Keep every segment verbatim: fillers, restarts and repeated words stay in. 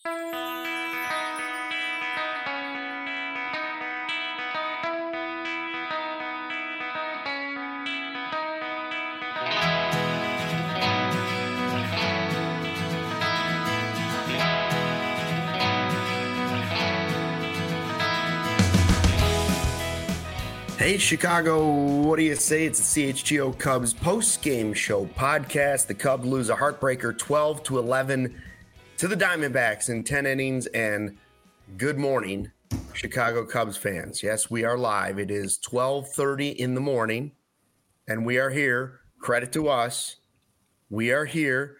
Hey, Chicago, what do you say? It's the C H G O Cubs post-game show podcast. The Cubs lose a heartbreaker twelve to eleven to the Diamondbacks in ten innings. And good morning, Chicago Cubs fans. Yes, we are live. It is twelve thirty in the morning, and we are here. Credit to us. We are here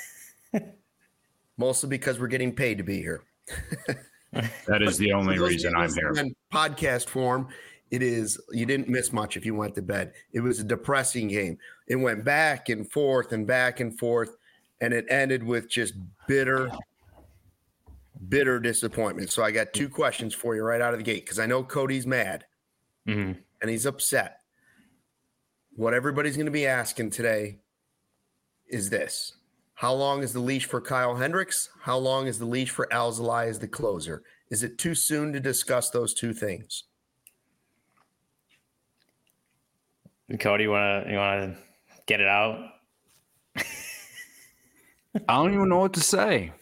mostly because we're getting paid to be here. That is the only reason I'm here. In podcast form. It is, you didn't miss much if you went to bed. It was a depressing game. It went back and forth and back and forth, and it ended with just bitter, bitter disappointment. So I got two questions for you right out of the gate because I know Cody's mad mm-hmm. and he's upset. What everybody's going to be asking today is this. How long is the leash for Kyle Hendricks? How long is the leash for Alzolay as the closer? Is it too soon to discuss those two things? Cody, you wanna you wanna get it out? I don't even know what to say.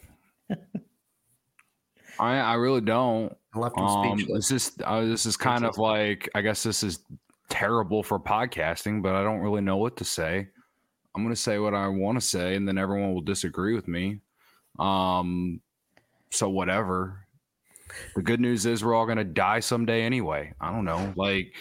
I I really don't. I left him um, speechless. This is uh, this is kind of like, I guess this is terrible for podcasting, but I don't really know what to say. I'm gonna say what I want to say, and then everyone will disagree with me. Um, so whatever. The good news is we're all gonna die someday anyway. I don't know, like.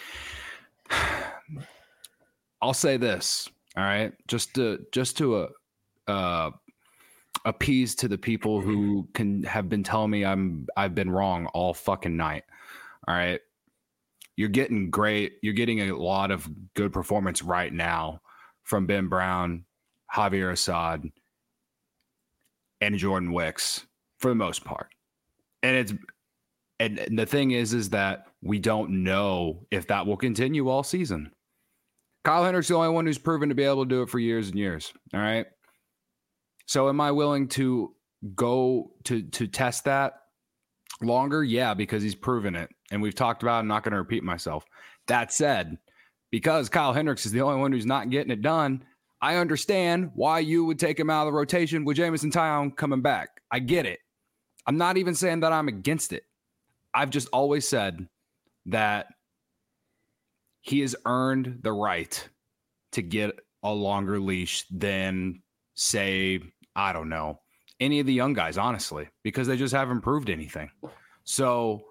I'll say this, all right, just to just to uh, uh, appease to the people who can have been telling me I'm I've been wrong all fucking night. All right, you're getting great. You're getting a lot of good performance right now from Ben Brown, Javier Assad, and Jordan Wicks for the most part. And it's and, and the thing is, is that we don't know if that will continue all season. Kyle Hendricks is the only one who's proven to be able to do it for years and years. All right. So am I willing to go to to test that longer? Yeah, because he's proven it. And we've talked about it. I'm not going to repeat myself. That said, because Kyle Hendricks is the only one who's not getting it done, I understand why you would take him out of the rotation with Jameson Taillon coming back. I get it. I'm not even saying that I'm against it. I've just always said that he has earned the right to get a longer leash than, say, I don't know, any of the young guys, honestly, because they just haven't proved anything. So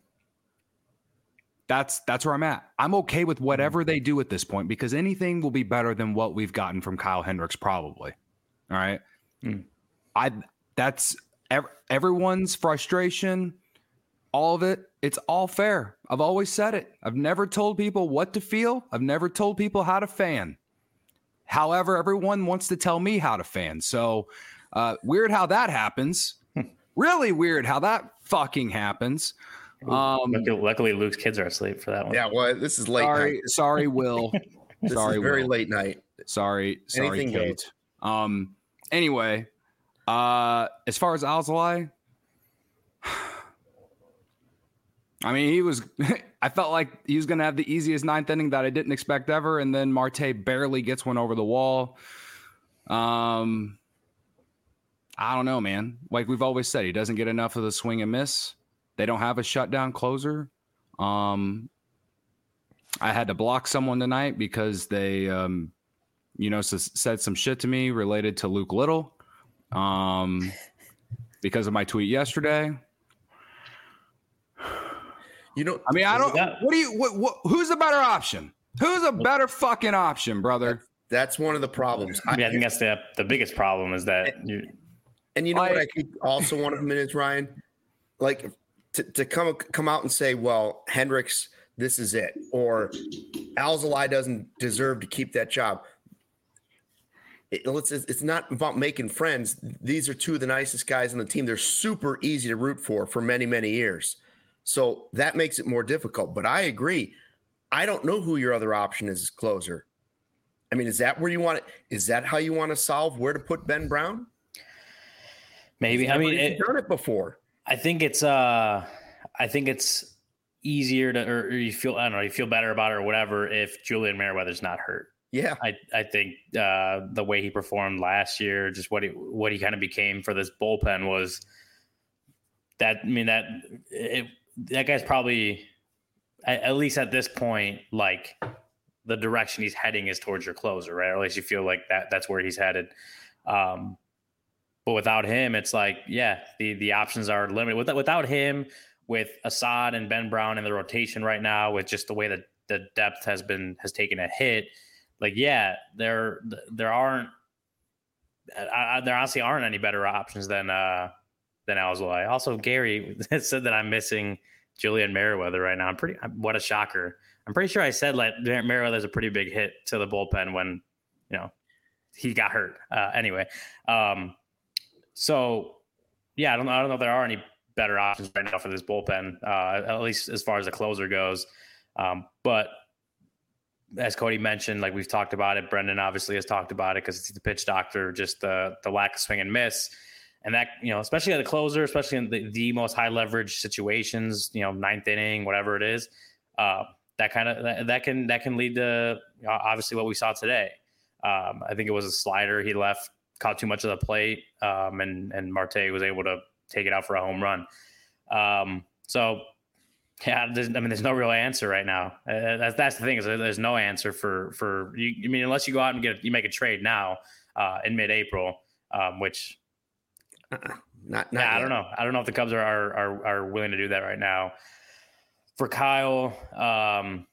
that's that's where I'm at. I'm okay with whatever they do at this point because anything will be better than what we've gotten from Kyle Hendricks, probably. All right. Mm. I that's ev- everyone's frustration. All of it, it's all fair. I've always said it. I've never told people what to feel. I've never told people how to fan. However, everyone wants to tell me how to fan. So uh, weird how that happens. Really weird how that fucking happens. Um, luckily, luckily, Luke's kids are asleep for that one. Yeah, well, this is late sorry, night. Sorry, Will. This sorry, is very Will. late night. Sorry, sorry, Anything Kate. Goes. Um. Anyway, uh, as far as Alzolay, I mean, he was – I felt like he was going to have the easiest ninth inning that I didn't expect ever, and then Marte barely gets one over the wall. Um, I don't know, man. Like we've always said, he doesn't get enough of the swing and miss. They don't have a shutdown closer. Um, I had to block someone tonight because they, um, you know, s- said some shit to me related to Luke Little um, because of my tweet yesterday. You know, I mean, I don't. What do you? What, what? Who's the better option? Who's a better fucking option, brother? That's one of the problems. I mean, I think that's the the biggest problem is that you. And you know like, what I think also one of them is, Ryan, like to, to come come out and say, well, Hendricks, this is it, or Alzolay doesn't deserve to keep that job. It, it's, it's not about making friends. These are two of the nicest guys on the team. They're super easy to root for for many, many years. So that makes it more difficult. But I agree. I don't know who your other option is as closer. I mean, is that where you want it? Is that how you want to solve where to put Ben Brown? Maybe. I mean, it, done it before. I think it's. Uh, I think it's easier to, or, or you feel. I don't know. You feel better about it or whatever if Julian Merriweather's not hurt. Yeah, I. I think uh, the way he performed last year, just what he what he kind of became for this bullpen was. That I mean that it, that guy's probably at least at this point like the direction he's heading is towards your closer, right? Or at least you feel like that that's where he's headed. Um, but without him, it's like yeah, the the options are limited. Without without him, with Assad and Ben Brown in the rotation right now, with just the way that the depth has been has taken a hit, like yeah, there there aren't I, there honestly aren't any better options than. Uh, than Alzolay. Also, Gary said that I'm missing Julian Merriweather right now. I'm pretty, what a shocker. I'm pretty sure I said like Merriweather's a pretty big hit to the bullpen when, you know, he got hurt. Uh, anyway. Um, so yeah, I don't know. I don't know if there are any better options right now for this bullpen, uh, at least as far as the closer goes. Um, but as Cody mentioned, like we've talked about it, Brendan obviously has talked about it because it's the pitch doctor, just the, the lack of swing and miss. And that, you know, especially at the closer, especially in the, the most high leverage situations, you know, ninth inning, whatever it is, uh, that kind of that, that can that can lead to you know, obviously what we saw today. Um, I think it was a slider he left, caught too much of the plate, um, and and Marte was able to take it out for a home run. Um, so yeah, I mean, there's no real answer right now. Uh, that's that's the thing is there's no answer for for you. I mean, unless you go out and get you make a trade now uh, in mid-April, um, which. Uh-uh. Not, not yeah, I don't know. I don't know if the Cubs are, are are willing to do that right now. For Kyle, um,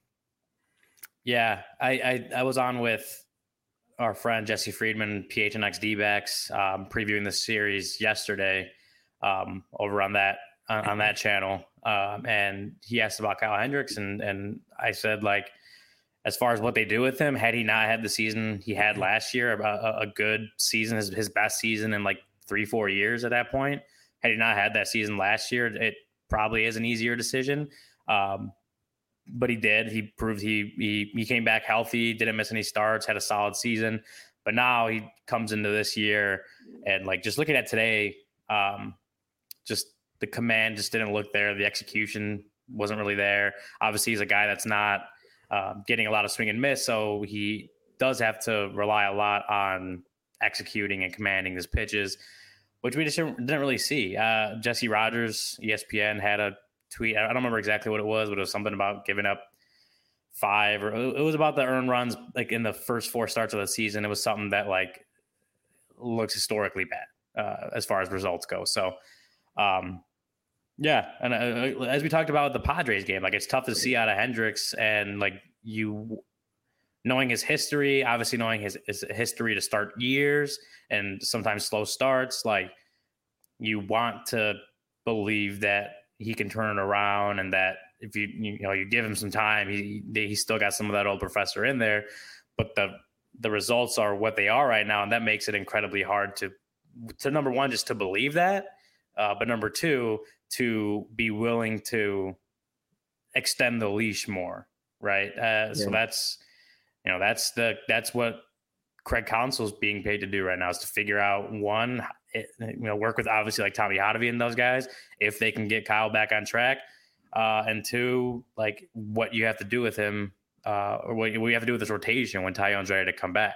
yeah, I, I I was on with our friend Jesse Friedman, P H N X D-backs, um, previewing the series yesterday um, over on that on, on that channel, um, and he asked about Kyle Hendricks, and and I said like, as far as what they do with him, had he not had the season he had last year, a, a good season, his his best season in like. three, four years at that point. Had he not had that season last year, it probably is an easier decision. Um, but he did. He proved he, he he came back healthy, didn't miss any starts, had a solid season. But now he comes into this year and like just looking at today, um, just the command just didn't look there. The execution wasn't really there. Obviously, he's a guy that's not uh, getting a lot of swing and miss, so he does have to rely a lot on executing and commanding his pitches, which we just didn't really see. Uh, Jesse Rogers, E S P N, had a tweet. I don't remember exactly what it was, but it was something about giving up five, or it was about the earned runs like in the first four starts of the season. It was something that like looks historically bad uh, as far as results go. So, um, yeah, and uh, as we talked about the Padres game, like it's tough to see out of Hendricks, and like you. Knowing his history, obviously knowing his, his history to start years and sometimes slow starts, like you want to believe that he can turn it around and that if you you know you give him some time, he he still got some of that old professor in there. But the the results are what they are right now, and that makes it incredibly hard to to number one just to believe that, uh, but number two to be willing to extend the leash more, right? Uh, yeah. So that's. You know, that's the that's what Craig Counsell's being paid to do right now is to figure out one, it, you know, work with obviously like Tommy Hotovy and those guys if they can get Kyle back on track, uh, and two, like what you have to do with him, uh, or what you have to do with this rotation when Taillon's ready to come back.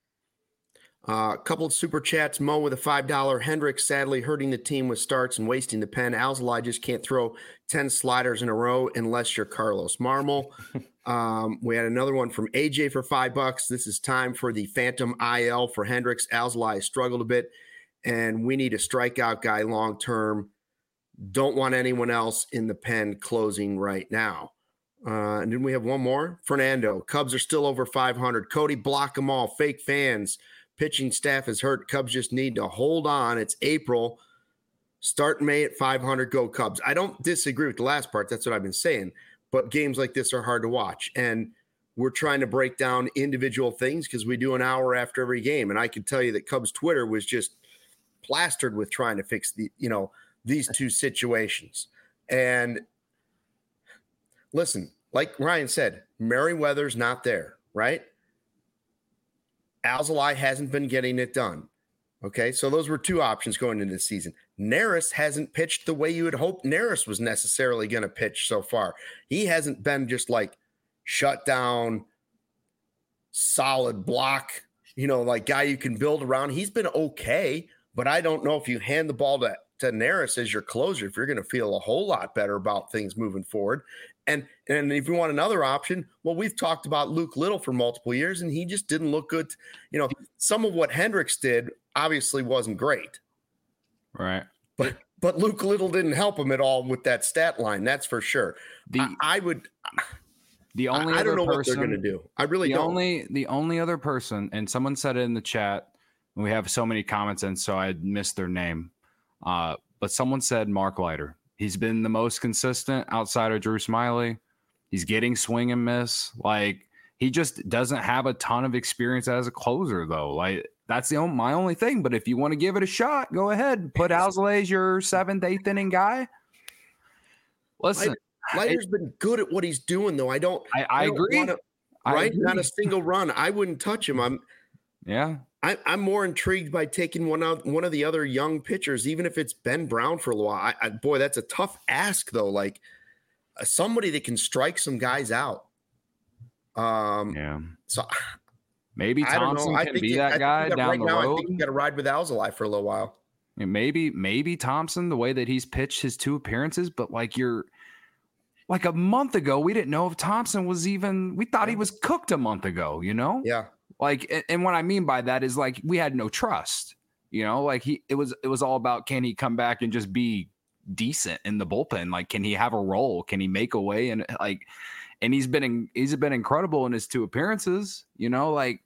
Uh, a couple of super chats. Mo with a five dollar. Hendricks sadly hurting the team with starts and wasting the pen. Alzolay just can't throw ten sliders in a row unless you're Carlos Marmol. um, we had another one from A J for five bucks. This is time for the Phantom I L for Hendricks. Alzolay struggled a bit, and we need a strikeout guy long term. Don't want anyone else in the pen closing right now. Uh, and then we have one more. Fernando. Cubs are still over five hundred. Cody, block them all. Fake fans. Pitching staff is hurt. Cubs just need to hold on. It's April. Start May at five hundred. Go Cubs. I don't disagree with the last part. That's what I've been saying. But games like this are hard to watch. And we're trying to break down individual things because we do an hour after every game. And I can tell you that Cubs Twitter was just plastered with trying to fix the, you know, these two situations. And listen, like Ryan said, Merriweather's not there, right? Alzolay hasn't been getting it done. Okay, so those were two options going into the season. Neris hasn't pitched the way you would hope Neris was necessarily going to pitch so far. He hasn't been just like shut down, solid block, you know, like guy you can build around. He's been okay, but I don't know if you hand the ball to, to Neris as your closer, if you're going to feel a whole lot better about things moving forward. And and if you want another option, well, we've talked about Luke Little for multiple years, and he just didn't look good. You know, some of what Hendricks did obviously wasn't great. Right. But but Luke Little didn't help him at all with that stat line. That's for sure. The I, I would the only I, I don't know person, what they're going to do. I really the don't. Only the only other person, and someone said it in the chat. We have so many comments, and so I missed their name. Uh, but someone said Mark Leiter. He's been the most consistent outside of Drew Smyly. He's getting swing and miss. Like, he just doesn't have a ton of experience as a closer, though. Like, that's the only, my only thing. But if you want to give it a shot, go ahead. Put Alzolay as your seventh, eighth inning guy. Listen, Leiter's it, been good at what he's doing, though. I don't. I, I, I don't agree. Wanna, right? I agree. Not a single run. I wouldn't touch him. I'm. Yeah. I, I'm more intrigued by taking one out one of the other young pitchers, even if it's Ben Brown for a while. I, I, boy, that's a tough ask, though. Like uh, somebody that can strike some guys out. Um, yeah. So maybe Thompson can be it, that guy that down right the now, road. I think you got to ride with Alzolay for a little while. And maybe maybe Thompson, the way that he's pitched his two appearances, but like you're like a month ago, we didn't know if Thompson was even. We thought he was cooked a month ago. You know? Yeah. Like, and what I mean by that is like we had no trust, you know, like he it was it was all about, can he come back and just be decent in the bullpen? Like, can he have a role? Can he make a way? And like, and he's been in, he's been incredible in his two appearances, you know, like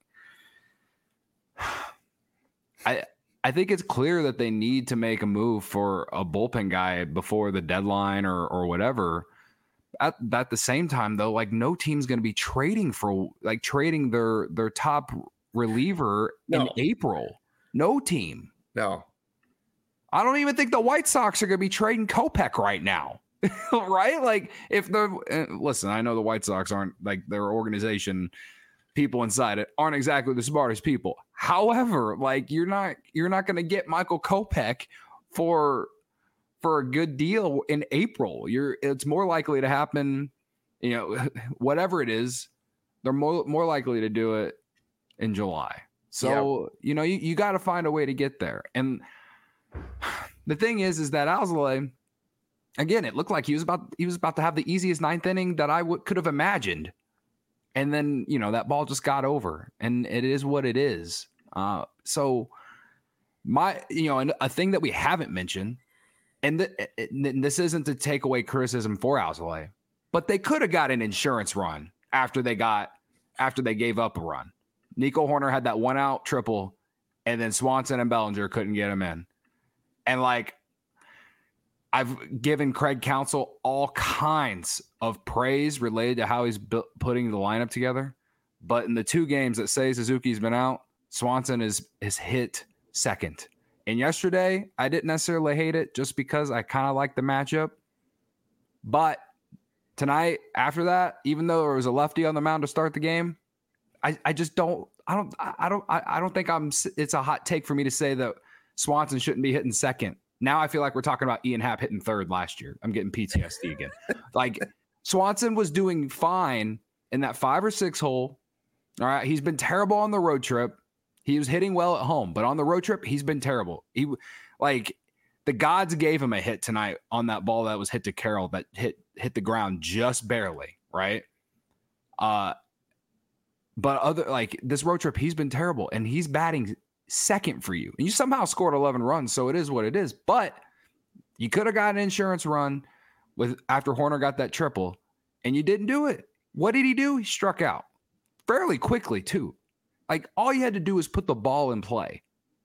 I I think it's clear that they need to make a move for a bullpen guy before the deadline or or whatever. At, at the same time, though, like no team's going to be trading for like trading their their top reliever no. in April. No team. No. I don't even think the White Sox are going to be trading Kopech right now. Right? Like if they're uh, listen, I know the White Sox aren't like their organization. People inside it aren't exactly the smartest people. However, like you're not you're not going to get Michael Kopech for. for a good deal in April. You're it's more likely to happen, you know, whatever it is, they're more more likely to do it in July. So, yeah. you know, you, you got to find a way to get there. And the thing is, is that Alzolay, again, it looked like he was about he was about to have the easiest ninth inning that I w- could have imagined. And then, you know, that ball just got over, and it is what it is. Uh, so my, you know, and a thing that we haven't mentioned, and, th- and this isn't to take away criticism for Alzolay, but they could have got an insurance run after they got after they gave up a run. Nico Horner had that one out triple, and then Swanson and Bellinger couldn't get him in. And like, I've given Craig Counsell all kinds of praise related to how he's bu- putting the lineup together, but in the two games that Seiya Suzuki's been out, Swanson is is hit second. And yesterday, I didn't necessarily hate it just because I kind of like the matchup. But tonight, after that, even though there was a lefty on the mound to start the game, I, I just don't, I don't, I don't, I don't think I'm, it's a hot take for me to say that Swanson shouldn't be hitting second. Now I feel like we're talking about Ian Happ hitting third last year. I'm getting P T S D again. Like Swanson was doing fine in that five or six hole. All right. He's been terrible on the road trip. He was hitting well at home, but on the road trip, he's been terrible. He like the gods gave him a hit tonight on that ball that was hit to Carroll that hit hit the ground just barely, right? Uh, but other like this road trip, he's been terrible, and he's batting second for you, and you somehow scored eleven runs, so it is what it is. But you could have got an insurance run with after Horner got that triple, and you didn't do it. What did he do? He struck out fairly quickly too. Like, all you had to do was put the ball in play.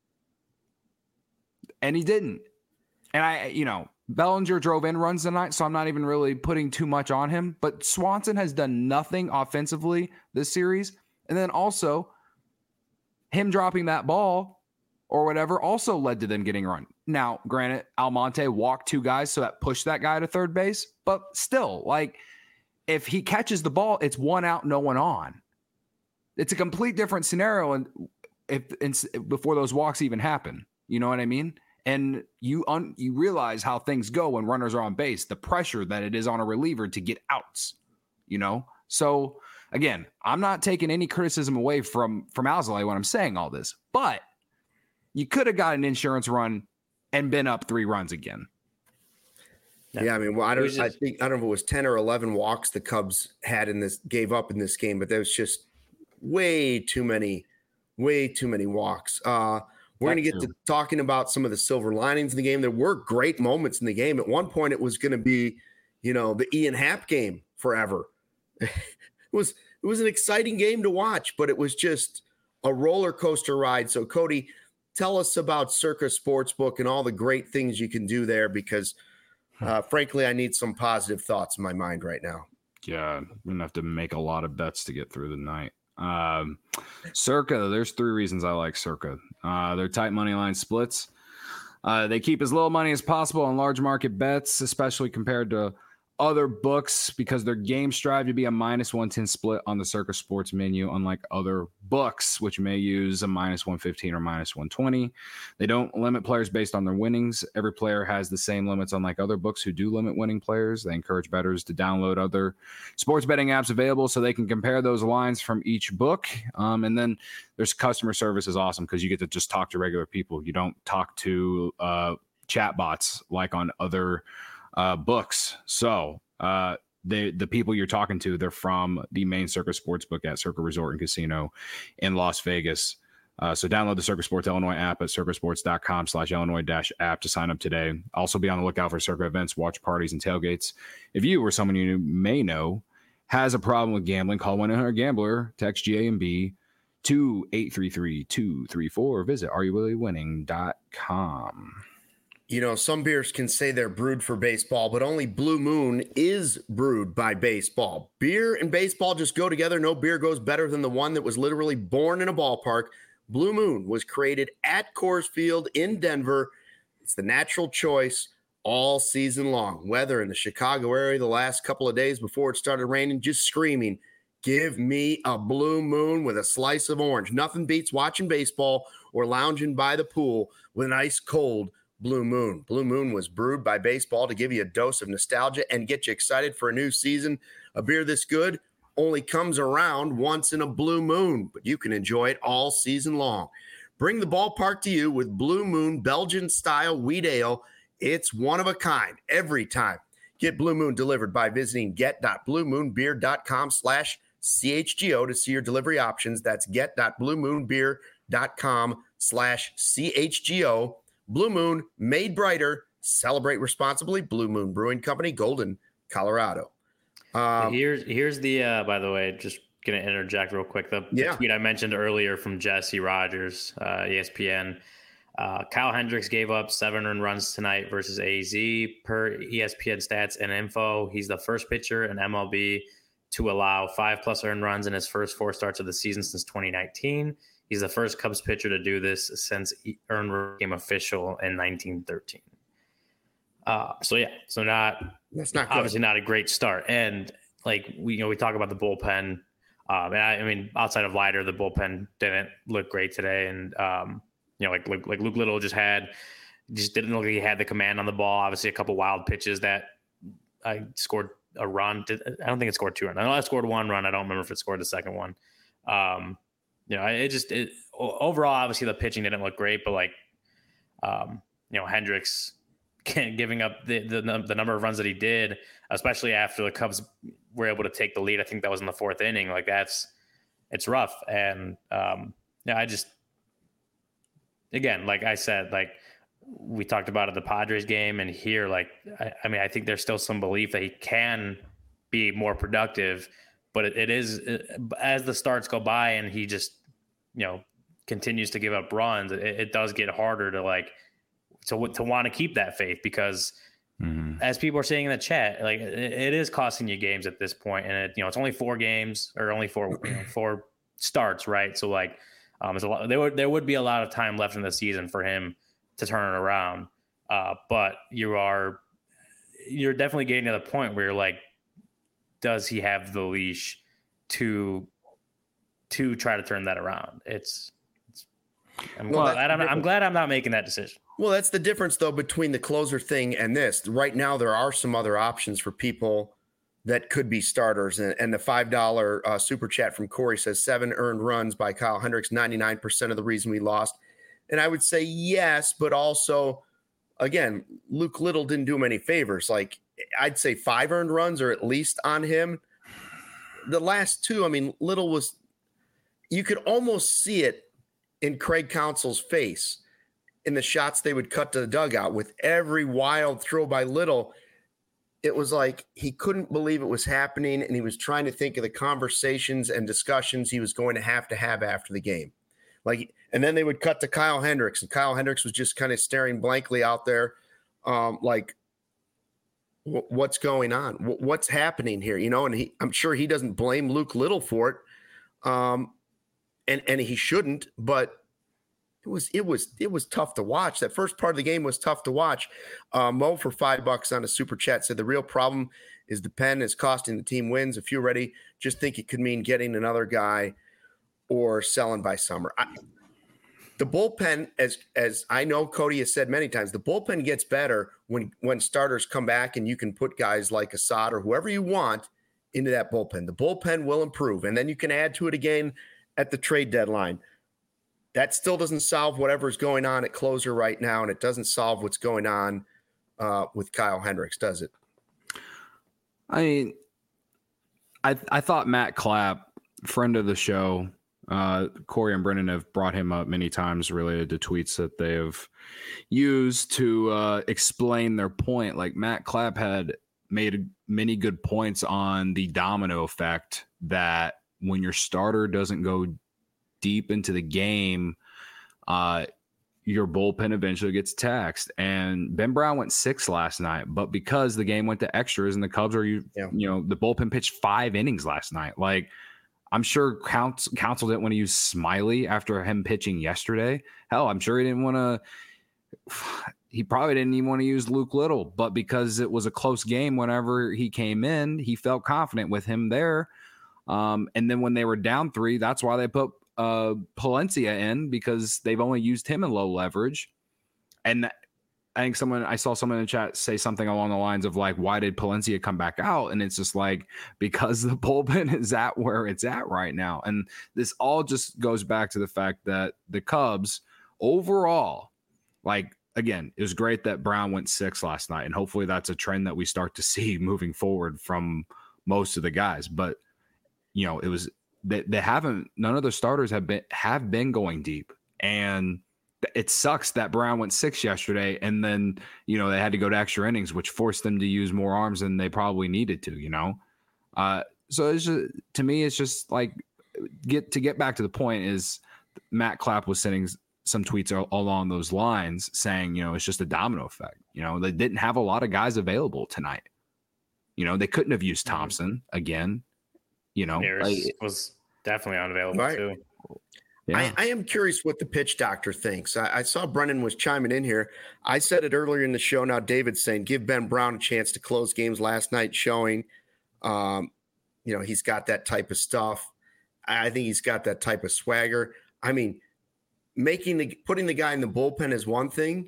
And he didn't. And I, you know, Bellinger drove in runs tonight, so I'm not even really putting too much on him. But Swanson has done nothing offensively this series. And then also, him dropping that ball or whatever also led to them getting a run. Now, granted, Almonte walked two guys, so that pushed that guy to third base. But still, like, if he catches the ball, it's one out, no one on. It's a complete different scenario. And if it's before those walks even happen. You know what I mean? And you un, you realize how things go when runners are on base, the pressure that it is on a reliever to get outs, you know? So again, I'm not taking any criticism away from, from Alzolay when I'm saying all this, but you could have got an insurance run and been up three runs again. Yeah, I mean, well, I don't. just, I think I don't know if it was ten or eleven walks the Cubs had in this, gave up in this game, but there was just way too many, way too many walks. Uh, we're going to get to talking about some of the silver linings in the game. There were great moments in the game. At one point, it was going to be, you know, the Ian Happ game forever. it was it was an exciting game to watch, but it was just a roller coaster ride. So, Cody, tell us about Circa Sportsbook and all the great things you can do there, because Uh, frankly, I need some positive thoughts in my mind right now. Yeah, I'm going to have to make a lot of bets to get through the night. Um, Circa, there's three reasons I like Circa. Uh, they're tight money line splits. Uh, they keep as little money as possible on large market bets, especially compared to other books, because their games strive to be a minus one ten split on the Circa Sports menu, unlike other books, which may use a minus one fifteen or minus one twenty. They don't limit players based on their winnings. Every player has the same limits, unlike other books who do limit winning players. They encourage bettors to download other sports betting apps available so they can compare those lines from each book. Um, and then there's customer service is awesome because you get to just talk to regular people. You don't talk to uh, chat bots like on other Uh, books. So uh, they, the people you're talking to, they're from the main Circa Sportsbook at Circa Resort and Casino in Las Vegas. Uh, so download the Circa Sports Illinois app at circasports.com slash Illinois dash app to sign up today. Also be on the lookout for Circa events, watch parties, and tailgates. If you or someone you may know has a problem with gambling, call one eight hundred gambler, text G A M B to eight three three, two three four, or visit are you really winning dot com. You know, some beers can say they're brewed for baseball, but only Blue Moon is brewed by baseball. Beer and baseball just go together. No beer goes better than the one that was literally born in a ballpark. Blue Moon was created at Coors Field in Denver. It's the natural choice all season long. Weather in the Chicago area the last couple of days before it started raining, just screaming, give me a Blue Moon with a slice of orange. Nothing beats watching baseball or lounging by the pool with an ice cold Blue Moon. Blue Moon was brewed by baseball to give you a dose of nostalgia and get you excited for a new season. A beer this good only comes around once in a blue moon, but you can enjoy it all season long. Bring the ballpark to you with Blue Moon Belgian-style wheat ale. It's one of a kind every time. Get Blue Moon delivered by visiting get.bluemoonbeer.com slash CHGO to see your delivery options. That's get.bluemoonbeer.com slash CHGO. Blue Moon, made brighter. Celebrate responsibly. Blue Moon Brewing Company, Golden, Colorado. Um, here's here's the uh, by the way, just gonna interject real quick. The, yeah. the tweet I mentioned earlier from Jesse Rogers, uh, E S P N. Uh, Kyle Hendricks gave up seven earned runs tonight versus A Z per E S P N stats and info. He's the first pitcher in M L B to allow five plus earned runs in his first four starts of the season since twenty nineteen. He's the first Cubs pitcher to do this since earned run became official in nineteen thirteen. Uh, so yeah, so not that's not obviously good. not a great start. And like we, you know, we talk about the bullpen. Um, and I, I mean, outside of Leiter, the bullpen didn't look great today. And um, you know, like, like like Luke Little just had, just didn't look like he had the command on the ball. Obviously, a couple wild pitches that I scored a run. I don't think it scored two runs. I know I scored one run. I don't remember if it scored the second one. Um, you know, it just it, overall, obviously, the pitching didn't look great, but like, um, you know, Hendricks giving up the, the the number of runs that he did, especially after the Cubs were able to take the lead. I think that was in the fourth inning. Like that's it's rough, and um, yeah, I just again, like I said, like we talked about at the Padres game, and here, like I, I mean, I think there's still some belief that he can be more productive. But it, it is as the starts go by and he just, you know, continues to give up runs. It, it does get harder to like to to want to keep that faith because, mm-hmm. as people are saying in the chat, like it, it is costing you games at this point, and it you know it's only four games or only four you know, four starts, right? So like, um, it's a lot. There would there would be a lot of time left in the season for him to turn it around, uh, but you are you're definitely getting to the point where you're like, does he have the leash to to try to turn that around? It's it's I'm, Well, glad, that's I'm, the I'm glad I'm not making that decision. Well, that's the difference, though, between the closer thing and this. Right now, there are some other options for people that could be starters. And, and the five dollar uh, super chat from Corey says seven earned runs by Kyle Hendricks, ninety-nine percent of the reason we lost. And I would say yes, but also, again, Luke Little didn't do him any favors. Like, I'd say five earned runs are at least on him. The last two, I mean, Little was, you could almost see it in Craig Counsell's face in the shots they would cut to the dugout with every wild throw by Little. It was like he couldn't believe it was happening, and he was trying to think of the conversations and discussions he was going to have to have after the game. Like, and then they would cut to Kyle Hendricks, and Kyle Hendricks was just kind of staring blankly out there, um, like, w- what's going on? W- what's happening here? You know, and he, I'm sure he doesn't blame Luke Little for it, um, and and he shouldn't, but It was it was it was tough to watch. That first part of the game was tough to watch. Uh, Mo for five bucks on a super chat said the real problem is the pen is costing the team wins. If you're ready, just think it could mean getting another guy or selling by summer. I, the bullpen, as as I know Cody has said many times, the bullpen gets better when when starters come back and you can put guys like Assad or whoever you want into that bullpen. The bullpen will improve, and then you can add to it again at the trade deadline. That still doesn't solve whatever's going on at closer right now, and it doesn't solve what's going on uh, with Kyle Hendricks, does it? I mean, I I thought Matt Clapp, friend of the show, uh, Corey and Brennan have brought him up many times related to tweets that they have used to uh, explain their point. Like Matt Clapp had made many good points on the domino effect that when your starter doesn't go deep into the game, uh, your bullpen eventually gets taxed. And Ben Brown went six last night, but because the game went to extras and the Cubs are, you, yeah. you know, the bullpen pitched five innings last night. Like, I'm sure Counsell, Counsell didn't want to use Smiley after him pitching yesterday. Hell, I'm sure he didn't want to. He probably didn't even want to use Luke Little, but because it was a close game, whenever he came in, he felt confident with him there. Um, and then when they were down three, that's why they put uh Palencia in, because they've only used him in low leverage. And I think someone I saw someone in the chat say something along the lines of like, why did Palencia come back out? And it's just like, because the bullpen is at where it's at right now. And this all just goes back to the fact that the Cubs overall, like, again, it was great that Brown went six last night, and hopefully that's a trend that we start to see moving forward from most of the guys. But you know, it was They, they haven't, none of the starters have been have been going deep, and it sucks that Brown went six yesterday, and then you know they had to go to extra innings, which forced them to use more arms than they probably needed to. You know, uh, so it's just, to me, it's just like get to get back to the point is Matt Clapp was sending some tweets along those lines saying, you know, it's just a domino effect. You know, they didn't have a lot of guys available tonight. You know, they couldn't have used Thompson again. You know, like, was definitely unavailable right. too. Yeah. I, I am curious what the pitch doctor thinks. I, I saw Brennan was chiming in here. I said it earlier in the show. Now David's saying give Ben Brown a chance to close games. Last night showing, um, you know, he's got that type of stuff. I think he's got that type of swagger. I mean, making the putting the guy in the bullpen is one thing.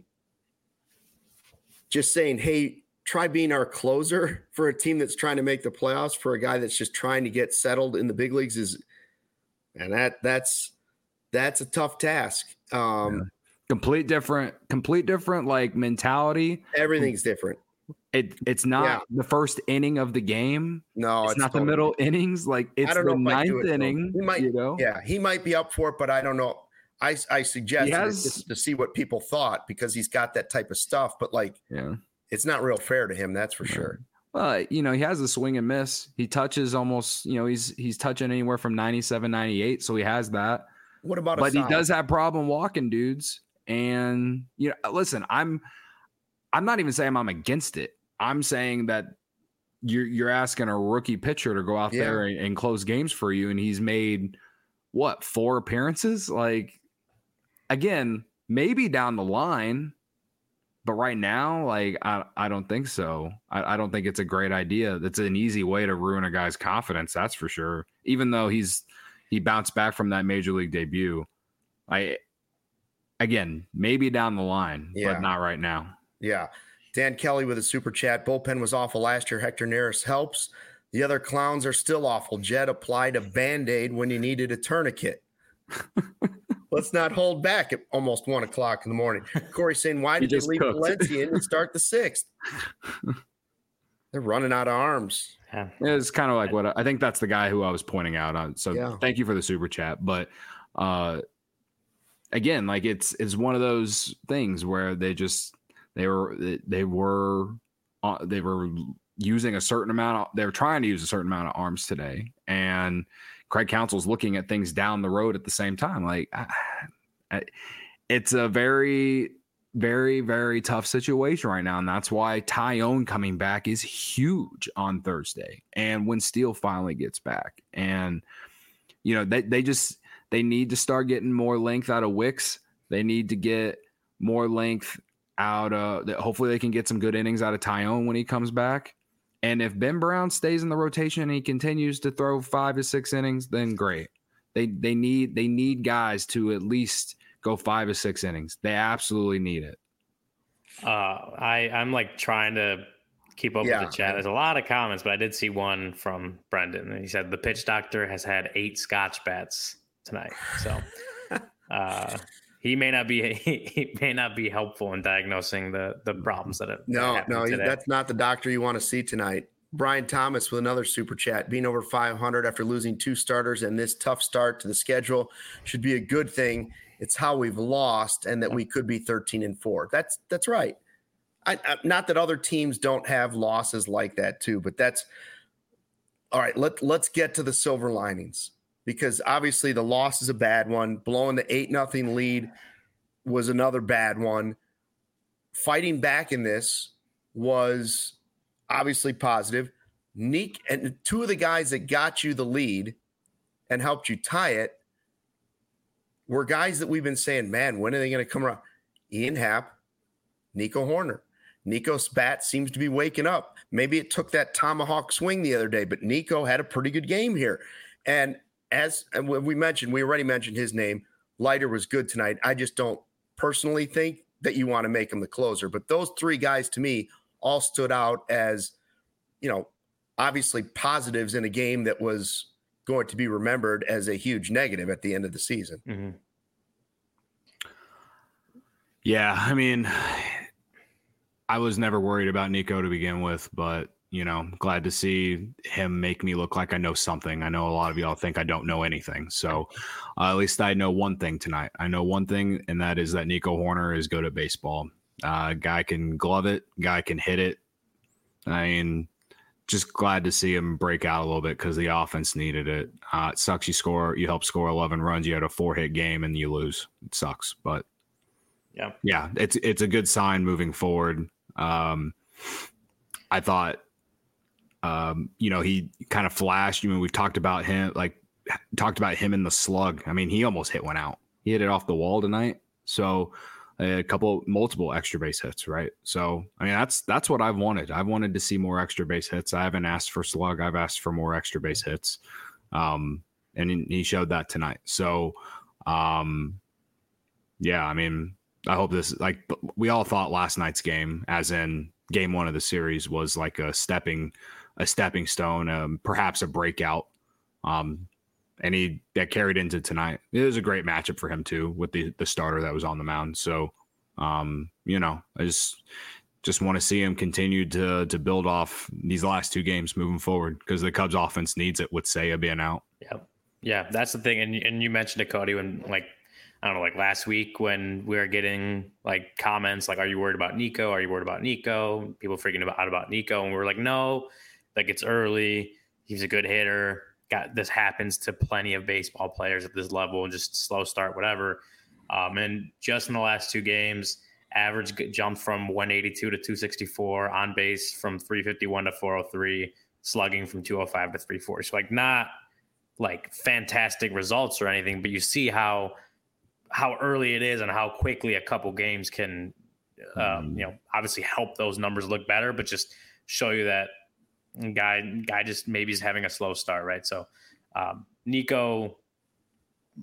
Just saying, hey, try being our closer for a team that's trying to make the playoffs, for a guy that's just trying to get settled in the big leagues is, and that that's, that's a tough task. Um, yeah. Complete different, complete different, like mentality. Everything's different. It it's not yeah. the first inning of the game. No, it's, it's not totally, the middle innings. Like it's the ninth inning. He might, you know? Yeah, he might be up for it, but I don't know. I I suggest has, to see what people thought, because he's got that type of stuff. But like, yeah. it's not real fair to him, that's for sure. Well, you know, he has a swing and miss. He touches almost, you know, he's he's touching anywhere from ninety-seven, ninety-eight, so he has that. What about But he does have problem walking dudes. And, you know, listen, I'm I'm not even saying I'm against it. I'm saying that you're you're asking a rookie pitcher to go out yeah. there and, and close games for you, and he's made what, four appearances? Like, again, maybe down the line. But right now, like, I, I don't think so. I, I don't think it's a great idea. That's an easy way to ruin a guy's confidence, that's for sure. Even though he's he bounced back from that major league debut. I again, maybe down the line, Yeah. but not right now. Yeah. Dan Kelly with a super chat. Bullpen was awful last year. Hector Neris helps. The other clowns are still awful. Jed applied a Band-Aid when you needed a tourniquet. Let's not hold back at almost one o'clock in the morning. Corey saying, why did they leave cooked. Valencia in to start the sixth? They're running out of arms. Yeah. It's kind of like what I, I think that's the guy who I was pointing out on. So yeah. Thank you for the super chat. But uh, again, like it's it's one of those things where they just they were they were uh, they were using a certain amount of, they were trying to use a certain amount of arms today, and Craig Counsell's looking at things down the road at the same time. Like I, I, it's a very, very, very tough situation right now. And that's why Tyone coming back is huge on Thursday. And when Steele finally gets back, and, you know, they, they just, they need to start getting more length out of Wicks. They need to get more length out of, hopefully they can get some good innings out of Tyone when he comes back. And if Ben Brown stays in the rotation and he continues to throw five to six innings, then great. They they need they need guys to at least go five or six innings. They absolutely need it. Uh, I I'm like trying to keep up yeah. with the chat. There's a lot of comments, but I did see one from Brendan, and he said the pitch doctor has had eight Scotch bats tonight. So uh, he may not be he may not be helpful in diagnosing the the problems that have no no today. That's not the doctor you want to see tonight. Brian Thomas with another super chat. Being over five hundred after losing two starters and this tough start to the schedule should be a good thing. It's how we've lost, and that we could be thirteen and four. That's that's right. I, I, not that other teams don't have losses like that too, but that's all right. Let let's get to the silver linings. Because obviously the loss is a bad one. Blowing the eight nothing lead was another bad one. Fighting back in this was obviously positive. Nick and two of the guys that got you the lead and helped you tie it were guys that we've been saying, man, when are they going to come around? Ian Happ, Nico Horner. Nico's bat seems to be waking up. Maybe it took that tomahawk swing the other day, but Nico had a pretty good game here. And As and we mentioned, we already mentioned his name. Leiter was good tonight. I just don't personally think that you want to make him the closer. But those three guys, to me, all stood out as, you know, obviously positives in a game that was going to be remembered as a huge negative at the end of the season. Mm-hmm. Yeah, I mean, I was never worried about Nico to begin with, but you know, glad to see him make me look like I know something. I know a lot of y'all think I don't know anything. So uh, at least I know one thing tonight. I know one thing, and that is that Nico Horner is good at baseball. Uh, guy can glove it. Guy can hit it. I mean, just glad to see him break out a little bit because the offense needed it. Uh, it sucks you score. You help score eleven runs. You had a four-hit game, and you lose. It sucks. But, yeah, yeah, it's, it's a good sign moving forward. Um, I thought, Um, you know, he kind of flashed. You I mean, we've talked about him, like talked about him in the slug. I mean, he almost hit one out. He hit it off the wall tonight. So a couple, multiple extra base hits, right? So, I mean, that's that's what I've wanted. I've wanted to see more extra base hits. I haven't asked for slug. I've asked for more extra base hits. Um, and he showed that tonight. So, um, yeah, I mean, I hope this, like, we all thought last night's game, as in game one of the series, was like a stepping a stepping stone, um, perhaps a breakout. Um, and he that carried into tonight. It was a great matchup for him too, with the, the starter that was on the mound. So, um, you know, I just, just want to see him continue to, to build off these last two games moving forward, because the Cubs offense needs it with Seiya being out. Yeah. Yeah. That's the thing. And, and you mentioned it, Cody, when like, I don't know, like last week when we were getting like comments, like, are you worried about Nico? Are you worried about Nico? People freaking about, out about Nico. And we were like, no, like it's early. He's a good hitter. Got this happens to plenty of baseball players at this level, and just slow start, whatever. Um, and just in the last two games, average jumped from one eighty-two to two sixty-four, on base from three fifty-one to four oh three, slugging from two oh five to three forty. So like not like fantastic results or anything, but you see how how early it is and how quickly a couple games can, um, you know, obviously help those numbers look better, but just show you that guy guy just maybe is having a slow start, right? So um, Nico,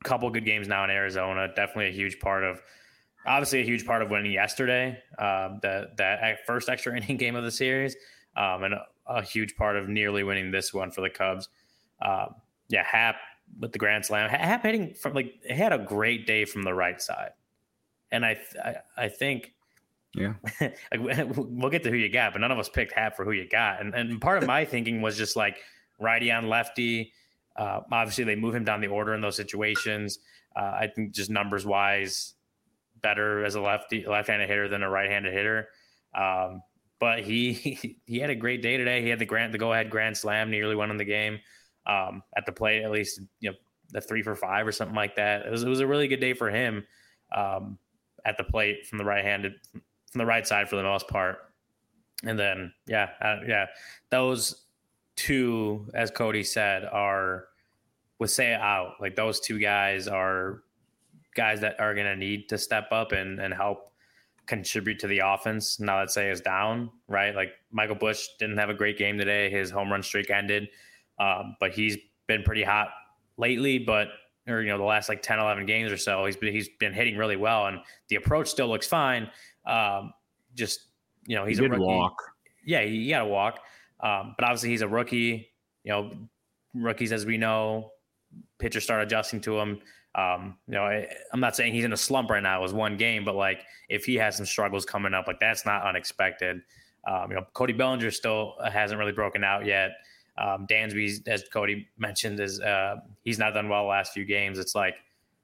couple good games now in Arizona. Definitely a huge part of, obviously a huge part of winning yesterday, uh, that that first extra inning game of the series, um, and a, a huge part of nearly winning this one for the Cubs. Uh, yeah, Happ with the grand slam. Happ hitting from like he had a great day from the right side, and I I, I think. Yeah, like, we'll get to who you got, but none of us picked Happ for who you got. And and part of my thinking was just like righty on lefty. Uh, obviously, they move him down the order in those situations. Uh, I think just numbers wise, better as a lefty left-handed hitter than a right-handed hitter. Um, but he he had a great day today. He had the grand the go-ahead grand slam, nearly won in the game um, at the plate. At least you know the three for five or something like that. It was it was a really good day for him um, at the plate from the right-handed. From the right side for the most part. And then, yeah, uh, yeah, those two, as Cody said, are with Seiya out. Like those two guys are guys that are going to need to step up and, and help contribute to the offense now that Seiya is down, right? Like Michael Busch didn't have a great game today. His home run streak ended, um, but he's been pretty hot lately, but or, you know, the last like ten, eleven games or so, he's been, he's been hitting really well and the approach still looks fine. Um, just, you know, he's he a rookie. Walk. Yeah, you got to walk. Um, but obviously he's a rookie, you know, rookies, as we know, pitchers start adjusting to him. Um, you know, I, I'm not saying he's in a slump right now. It was one game, but like if he has some struggles coming up, like that's not unexpected. Um, you know, Cody Bellinger still hasn't really broken out yet. Um, Dansby, as Cody mentioned, is uh, he's not done well the last few games. It's like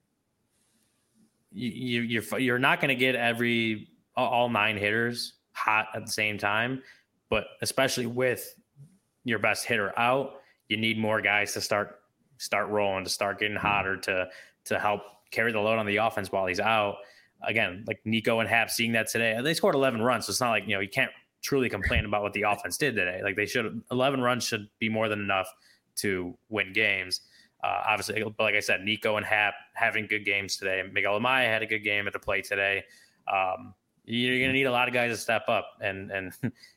you, you're you're not going to get every all nine hitters hot at the same time, but especially with your best hitter out, you need more guys to start start rolling, to start getting hotter, to to help carry the load on the offense while he's out. Again, like Nico and Happ seeing that today, they scored eleven runs, so it's not like, you know, you can't truly complain about what the offense did today. Like they should, eleven runs should be more than enough to win games. Uh, obviously, but like I said, Nico and Happ having good games today. Miguel Amaya had a good game at the plate today. Um, You're going to need a lot of guys to step up. And and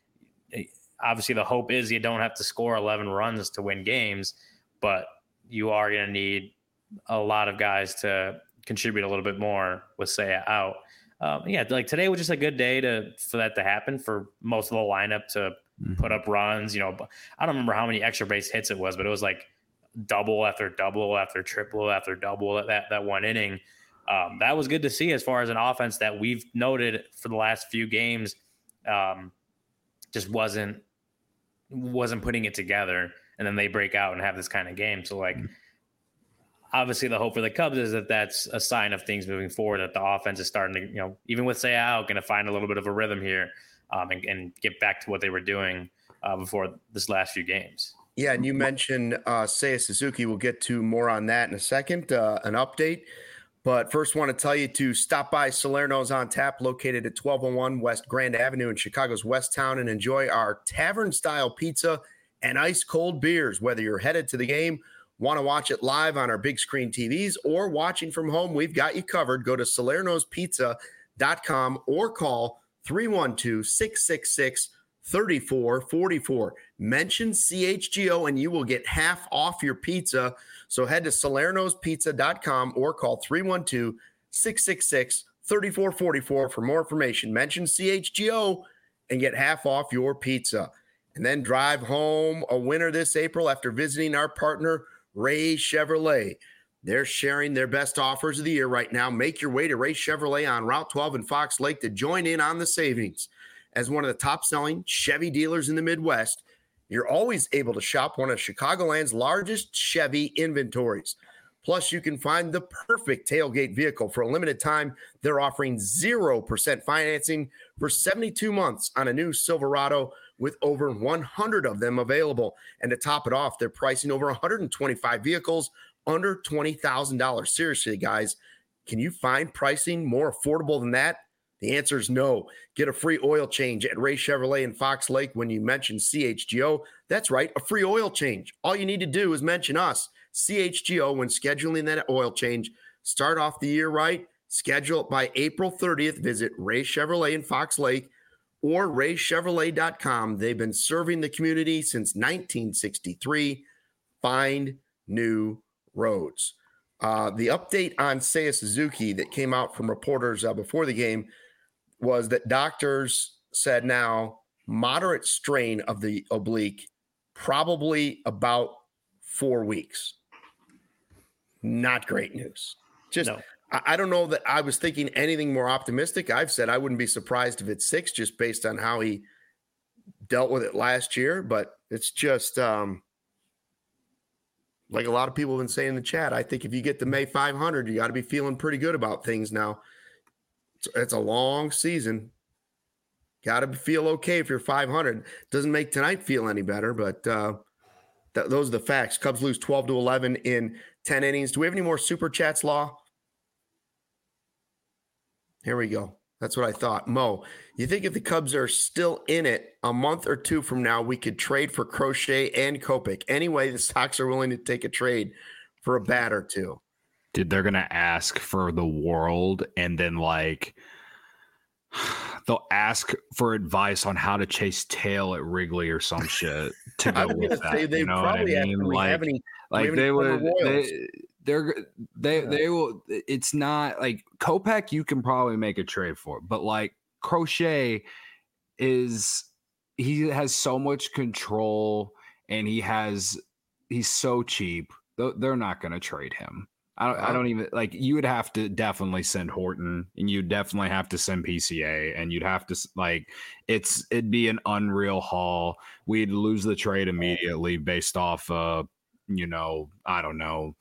obviously the hope is you don't have to score eleven runs to win games, but you are going to need a lot of guys to contribute a little bit more with Seiya out. Um, yeah, like today was just a good day to for that to happen, for most of the lineup to mm-hmm. put up runs. You know, I don't remember how many extra base hits it was, but it was like double after double after triple after double that, that one inning. Um, that was good to see as far as an offense that we've noted for the last few games um, just wasn't wasn't putting it together, and then they break out and have this kind of game. So, like, obviously the hope for the Cubs is that that's a sign of things moving forward, that the offense is starting to, you know, even with Seiya out, going to find a little bit of a rhythm here um, and, and get back to what they were doing uh, before this last few games. Yeah, and you mentioned uh, Seiya Suzuki. We'll get to more on that in a second, uh, an update. But first, want to tell you to stop by Salerno's on Tap, located at twelve oh one West Grand Avenue in Chicago's West Town, and enjoy our tavern-style pizza and ice-cold beers. Whether you're headed to the game, want to watch it live on our big screen T Vs, or watching from home, we've got you covered. Go to salernos pizza dot com or call three one two, six six six, three four four four. Mention C H G O and you will get half off your pizza. So head to salernos pizza dot com or call three one two, six six six, three four four four for more information. Mention C H G O and get half off your pizza. And then drive home a winner this April after visiting our partner, Ray Chevrolet. They're sharing their best offers of the year right now. Make your way to Ray Chevrolet on Route twelve in Fox Lake to join in on the savings. As one of the top-selling Chevy dealers in the Midwest, you're always able to shop one of Chicagoland's largest Chevy inventories. Plus, you can find the perfect tailgate vehicle. For a limited time, they're offering zero percent financing for seventy-two months on a new Silverado with over one hundred of them available. And to top it off, they're pricing over one hundred twenty-five vehicles under twenty thousand dollars. Seriously, guys, can you find pricing more affordable than that? The answer is no. Get a free oil change at Ray Chevrolet in Fox Lake when you mention C H G O. That's right, a free oil change. All you need to do is mention us, C H G O, when scheduling that oil change. Start off the year right. Schedule it by April thirtieth. Visit Ray Chevrolet in Fox Lake or ray chevrolet dot com. They've been serving the community since nineteen sixty-three. Find new roads. Uh, the update on Seiya Suzuki that came out from reporters uh, before the game was that doctors said now moderate strain of the oblique, probably about four weeks. Not great news. Just, No. I, I don't know that I was thinking anything more optimistic. I've said I wouldn't be surprised if it's six, just based on how he dealt with it last year. But it's just, um, like a lot of people have been saying in the chat, I think if you get to May five hundred, you got to be feeling pretty good about things now. It's, it's a long season. Got to feel okay if you're five hundred. Doesn't make tonight feel any better, but uh, th- those are the facts. Cubs lose twelve to eleven in ten innings. Do we have any more super chats, Law? Here we go. That's what I thought. Mo, you think if the Cubs are still in it a month or two from now, we could trade for Crochet and Kopech? Anyway, the Sox are willing to take a trade for a bat or two. Dude, they're going to ask for the world, and then, like, they'll ask for advice on how to chase tail at Wrigley or some shit to go with that. They You know what I probably mean? have, Like, have any, like they would, they, they're, they, Yeah. they will, it's not like Kopech, you can probably make a trade for, but like Crochet is, he has so much control and he has, he's so cheap. They're not going to trade him. I don't, I don't even like, you would have to definitely send Horton, and you'd definitely have to send P C A, and you'd have to like, it's, it'd be an unreal haul. We'd lose the trade immediately based off, uh, you know, I don't know,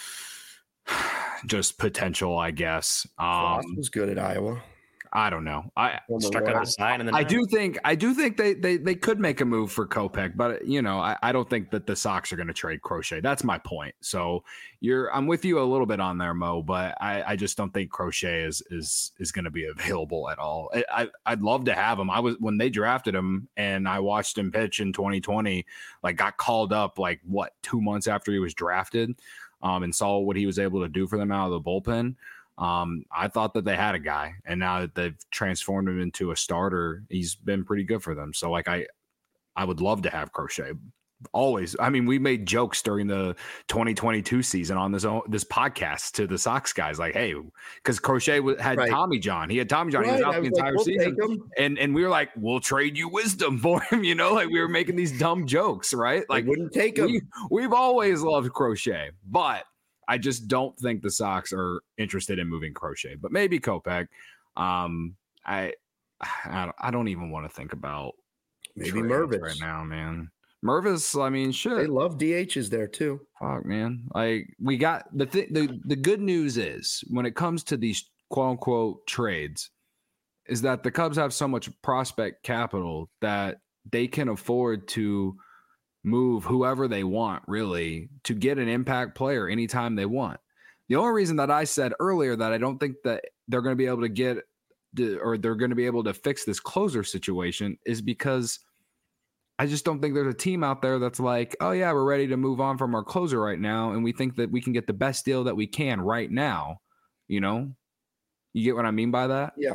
just potential, I guess. Um, was good at Iowa. I don't know. I Struck out the sign, and then I do think I do think they they they could make a move for Kopech, but you know, I, I don't think that the Sox are going to trade Crochet. That's my point. So you're I'm with you a little bit on there, Mo, but I, I just don't think Crochet is is is going to be available at all. I, I I'd love to have him. I was when they drafted him and I watched him pitch in twenty twenty, like got called up like what two months after he was drafted, um, and saw what he was able to do for them out of the bullpen. Um, I thought that they had a guy, and now that they've transformed him into a starter, he's been pretty good for them. So like, I, I would love to have Crochet always. I mean, we made jokes during the twenty twenty-two season on this, this podcast to the Sox guys, like, hey, cause Crochet had right. Tommy John. He had Tommy John. Right. He was out was the entire like, we'll season. And, and we were like, we'll trade you wisdom for him. You know, like we were making these dumb jokes, right? Like they wouldn't take him. We, we've always loved Crochet, but I just don't think the Sox are interested in moving Crochet, but maybe Kopech. Um, I, I don't, I don't even want to think about maybe Mervis right now, man. Mervis, I mean, shit. They love D Hs there too. Fuck, man. Like we got the th- the the good news is when it comes to these quote unquote trades, is that the Cubs have so much prospect capital that they can afford to move whoever they want, really, to get an impact player anytime they want. The only reason that I said earlier that I don't think that they're going to be able to get the, or they're going to be able to fix this closer situation is because I just don't think there's a team out there that's like, oh yeah, we're ready to move on from our closer right now, and we think that we can get the best deal that we can right now. You know, you get what I mean by that? Yeah.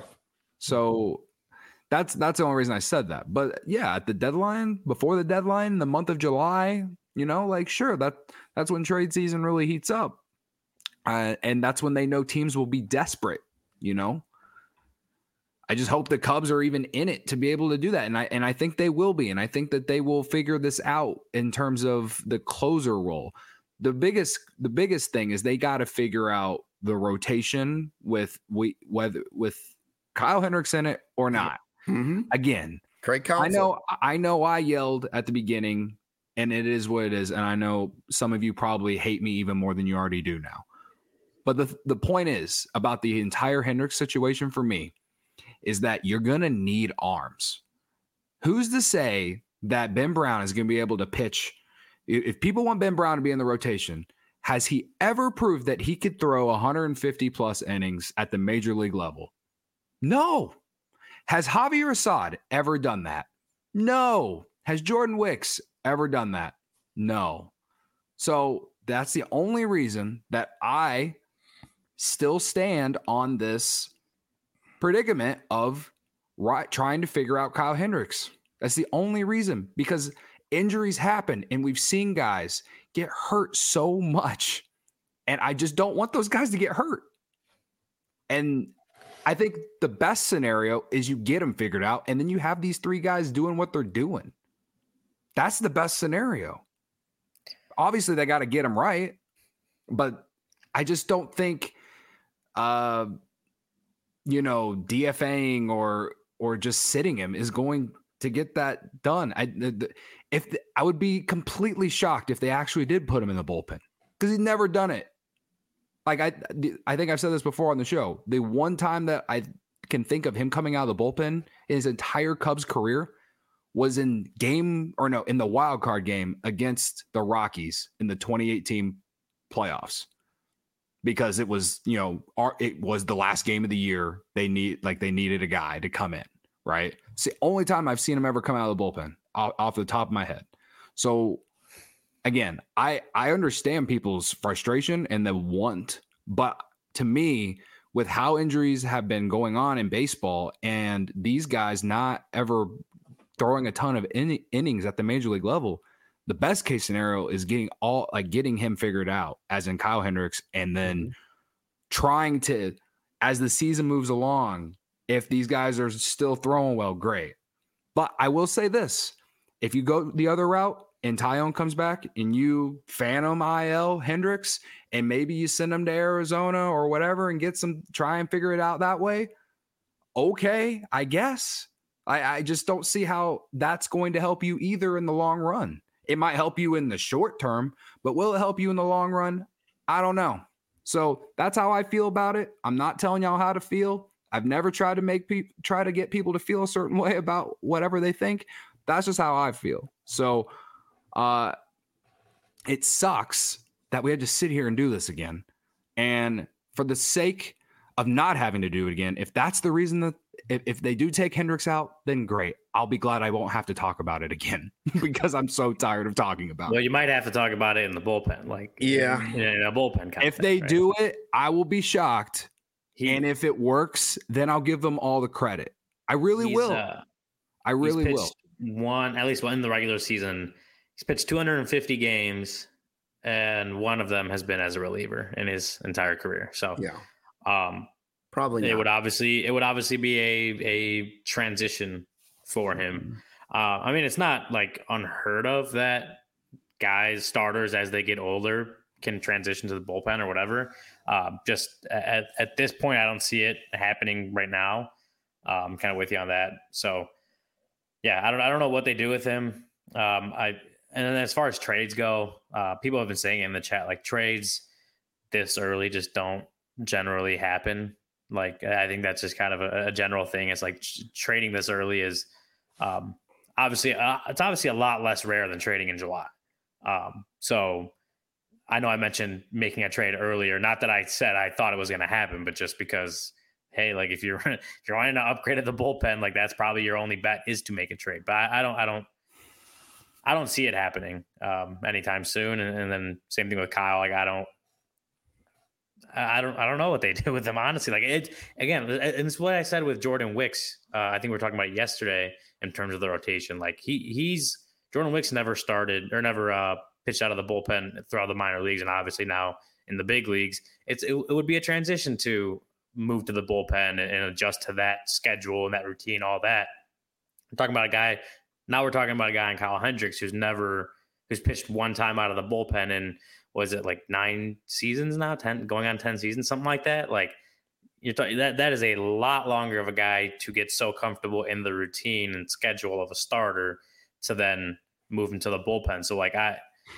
So That's that's the only reason I said that. But yeah, at the deadline, before the deadline, the month of July, you know, like sure, that that's when trade season really heats up. Uh, and that's when they know teams will be desperate, you know. I just hope the Cubs are even in it to be able to do that. And I and I think they will be. And I think that they will figure this out in terms of the closer role. The biggest the biggest thing is they got to figure out the rotation with we whether with Kyle Hendricks in it or not. Mm-hmm. Again, Craig Counsell. I know, I know I yelled at the beginning, and it is what it is. And I know some of you probably hate me even more than you already do now. But the, the point is about the entire Hendricks situation for me is that you're going to need arms. Who's to say that Ben Brown is going to be able to pitch? If people want Ben Brown to be in the rotation, has he ever proved that he could throw one hundred fifty plus innings at the major league level? No. Has Javier Assad ever done that? No. Has Jordan Wicks ever done that? No. So that's the only reason that I still stand on this predicament of right, trying to figure out Kyle Hendricks. That's the only reason, because injuries happen and we've seen guys get hurt so much And I just don't want those guys to get hurt. And I think the best scenario is you get them figured out, and then you have these three guys doing what they're doing. That's the best scenario. Obviously, they got to get them right, but I just don't think, uh, you know, DFAing or or just sitting him is going to get that done. I if the, I would be completely shocked if they actually did put him in the bullpen because he's never done it. Like I, I think I've said this before on the show. The one time that I can think of him coming out of the bullpen in his entire Cubs career was in game or no, in the wild card game against the Rockies in the twenty eighteen playoffs, because it was, you know, it was the last game of the year. They need like they needed a guy to come in, right? It's the only time I've seen him ever come out of the bullpen off, off the top of my head. So again, I, I understand people's frustration and the want, but to me, with how injuries have been going on in baseball and these guys not ever throwing a ton of in, innings at the major league level, the best case scenario is getting all like getting him figured out, as in Kyle Hendricks, and then mm-hmm. trying to, as the season moves along, if these guys are still throwing well, great. But I will say this, if you go the other route, and Taillon comes back and you phantom I L Hendricks and maybe you send him to Arizona or whatever and get some, try and figure it out that way. Okay, I guess. I, I just don't see how that's going to help you either in the long run. It might help you in the short term, but will it help you in the long run? I don't know. So that's how I feel about it. I'm not telling y'all how to feel. I've never tried to make people try to get people to feel a certain way about whatever they think. That's just how I feel. So, Uh, it sucks that we had to sit here and do this again. And for the sake of not having to do it again, if that's the reason that if, if they do take Hendricks out, then great. I'll be glad I won't have to talk about it again because I'm so tired of talking about well, it. Well, you might have to talk about it in the bullpen. Like, yeah, in, in a bullpen kind If of thing, they right? do it, I will be shocked. He, and if it works, then I'll give them all the credit. I really will. Uh, I really will. One, at least one in the regular season. He's pitched two hundred fifty games, and one of them has been as a reliever in his entire career. So, yeah, um, probably not. it would obviously it would obviously be a a transition for him. Mm-hmm. Uh, I mean, it's not like unheard of that guys starters as they get older can transition to the bullpen or whatever. Uh, just at at this point, I don't see it happening right now. Uh, I'm kind of with you on that. So, yeah, I don't I don't know what they do with him. Um, I. And then as far as trades go, uh, people have been saying in the chat, like trades this early just don't generally happen. Like, I think that's just kind of a, a general thing. It's like ch- trading this early is um, obviously, uh, it's obviously a lot less rare than trading in July. Um, so I know I mentioned making a trade earlier, not that I said I thought it was going to happen, but just because, hey, like if you're, if you're wanting to upgrade at the bullpen, like that's probably your only bet is to make a trade. But I, I don't, I don't, I don't see it happening um, anytime soon. And, and then same thing with Kyle. Like, I don't, I don't, I don't know what they do with him, honestly. Like it, again, and it's what I said with Jordan Wicks. Uh, I think we were talking about it yesterday in terms of the rotation. Like he, he's Jordan Wicks never started or never uh, pitched out of the bullpen throughout the minor leagues. And obviously now in the big leagues, it's, it, it would be a transition to move to the bullpen and, and adjust to that schedule and that routine, all that. I'm talking about a guy. Now we're talking about a guy in Kyle Hendricks who's never, who's pitched one time out of the bullpen in, was it like nine seasons now, ten, going on ten seasons, something like that. Like you're talking that, that is a lot longer of a guy to get so comfortable in the routine and schedule of a starter to then move into the bullpen. So like I,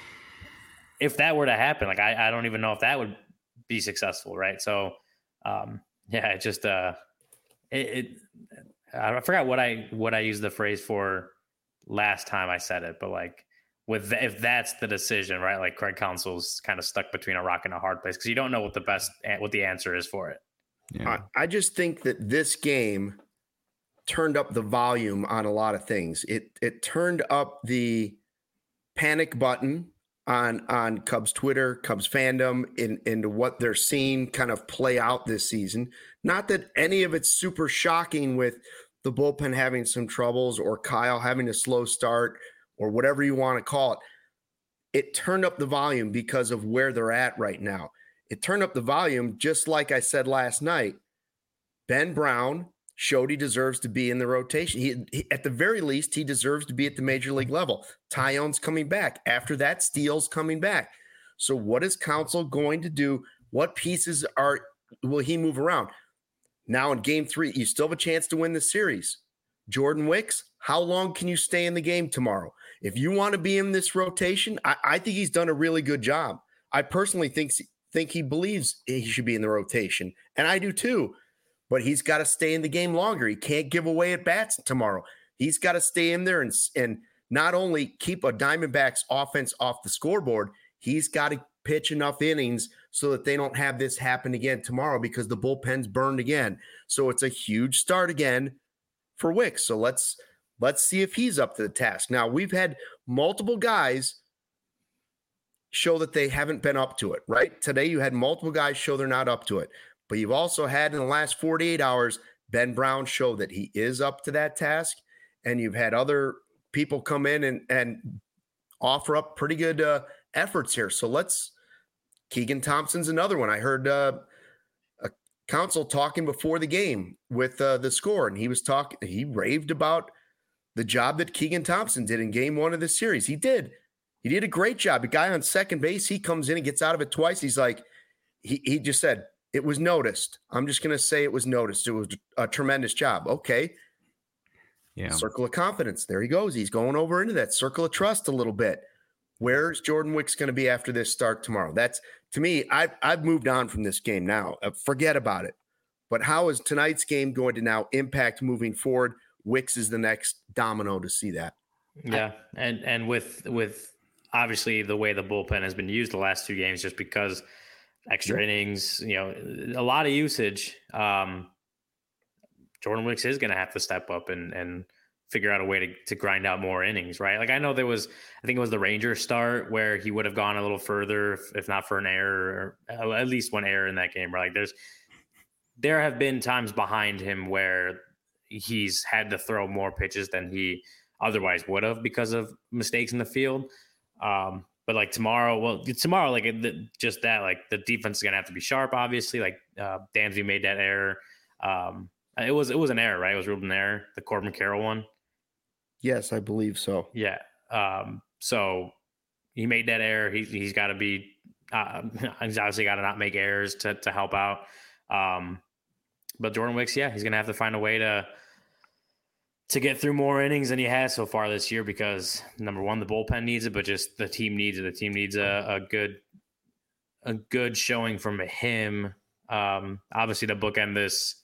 if that were to happen, like I, I don't even know if that would be successful. Right. So um, yeah, it just, uh, it, it I forgot what I, what I used the phrase for last time I said it, but like with the, if that's the decision, right? Like Craig Counsell's kind of stuck between a rock and a hard place because you don't know what the best what the answer is for it. Yeah. I, I just think that this game turned up the volume on a lot of things. It it turned up the panic button on on Cubs Twitter, Cubs fandom, in into what they're seeing kind of play out this season. Not that any of it's super shocking with the bullpen having some troubles or Kyle having a slow start or whatever you want to call it. It turned up the volume because of where they're at right now. it turned up the volume, just like I said last night. Ben Brown showed he deserves to be in the rotation. He, he at the very least, he deserves to be at the major league level. Tyone's coming back. After that, Steele's coming back. So what is Counsell going to do? What pieces are will he move around? Now in game three, you still have a chance to win the series. Jordan Wicks, how long can you stay in the game tomorrow? If you want to be in this rotation, I, I think he's done a really good job. I personally think, think he believes he should be in the rotation, and I do too. But he's got to stay in the game longer. He can't give away at bats tomorrow. He's got to stay in there and, and not only keep a Diamondbacks offense off the scoreboard, he's got to pitch enough innings so that they don't have this happen again tomorrow because the bullpen's burned again. So it's a huge start again for Wicks. So let's let's see if he's up to the task. Now, we've had multiple guys show that they haven't been up to it, right? Today you had multiple guys show they're not up to it. But you've also had in the last forty-eight hours, Ben Brown show that he is up to that task. And you've had other people come in and, and offer up pretty good uh, efforts here. So let's – Keegan Thompson's another one. I heard uh, a Counsell talking before the game with uh, the score, and he was talking – he raved about the job that Keegan Thompson did in game one of this series. He did. He did a great job. A guy on second base, he comes in and gets out of it twice. He's like he, – he just said – it was noticed. I'm just going to say it was noticed. It was a tremendous job. Okay. Yeah. Circle of confidence. There he goes. He's going over into that circle of trust a little bit. Where's Jordan Wicks going to be after this start tomorrow? That's, to me, I've, I've moved on from this game now. Uh, forget about it. But how is tonight's game going to now impact moving forward? Wicks is the next domino to see that. Yeah. And, and with, with obviously the way the bullpen has been used the last two games, just because extra innings, you know, a lot of usage. Um, Jordan Wicks is going to have to step up and and figure out a way to, to grind out more innings, right? Like I know there was, I think it was the Rangers start where he would have gone a little further, if, if not for an error, or at least one error in that game, right? Like there's, there have been times behind him where he's had to throw more pitches than he otherwise would have because of mistakes in the field. Um, But like tomorrow, well, tomorrow, like the, just that, like the defense is gonna have to be sharp. Obviously, like uh, Dansby made that error. Um, it was it was an error, right? It was ruled an error. The Corbin Carroll one. Yes, I believe so. Yeah. Um, so he made that error. He he's got to be. Uh, he's obviously got to not make errors to to help out. Um, but Jordan Wicks, yeah, he's gonna have to find a way to. to get through more innings than he has so far this year because number one, the bullpen needs it, but just the team needs it. The team needs a, a good, a good showing from him. Um, obviously to bookend this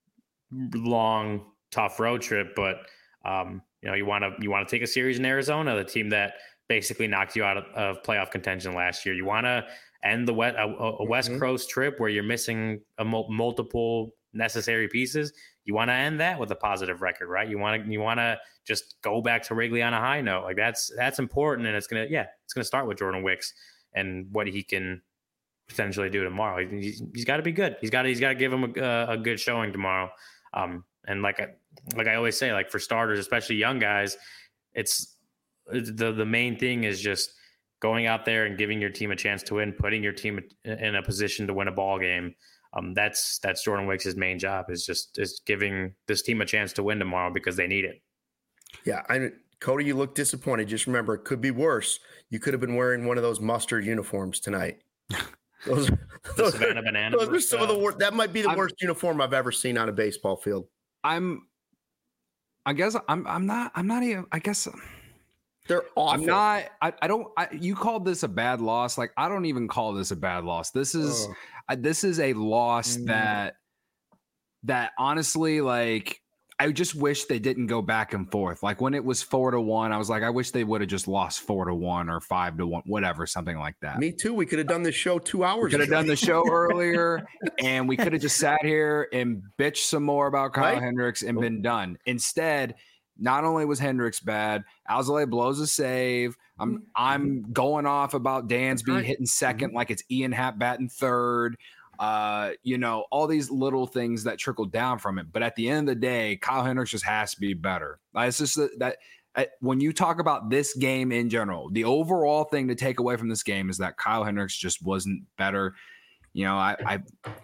long, tough road trip, but um, you know, you want to, you want to take a series in Arizona, the team that basically knocked you out of, of playoff contention last year. You want to end the West, a, a West mm-hmm. Coast trip where you're missing a mul- multiple necessary pieces. You want to end that with a positive record, right? You want to you want to just go back to Wrigley on a high note. Like that's that's important, and it's gonna yeah, it's gonna start with Jordan Wicks and what he can potentially do tomorrow. He's, he's got to be good. He's got he's got to give him a, a good showing tomorrow. Um, and like I like I always say, like for starters, especially young guys, it's the the main thing is just going out there and giving your team a chance to win, putting your team in a position to win a ball game. Um, that's that's Jordan Wicks' main job is just is giving this team a chance to win tomorrow because they need it. Yeah, I Cody, you look disappointed. Just remember, it could be worse. You could have been wearing one of those mustard uniforms tonight. Those, those, Savannah are, Banana those are some uh, of the worst. That might be the I'm, worst uniform I've ever seen on a baseball field. I'm, I guess I'm. I'm not. I'm not even. I guess. They're awful. I'm not. I, I don't. I, you called this a bad loss. Like I don't even call this a bad loss. This is. Oh. I, this is a loss Mm. that. That honestly, like, I just wish they didn't go back and forth. Like when it was four to one, I was like, I wish they would have just lost four to one or five to one, whatever, something like that. Me too. We could have done this show two hours. Could have ago. done the show earlier, and we could have just sat here and bitched some more about Kyle Right? Hendricks and been done. Instead, not only was Hendricks bad, Alzolay blows a save. I'm I'm going off about Dansby right. hitting second like it's Ian Happ batting third. Uh, you know, all these little things that trickle down from it. But at the end of the day, Kyle Hendricks just has to be better. Like, it's just that, that uh, when you talk about this game in general, the overall thing to take away from this game is that Kyle Hendricks just wasn't better. You know, I, I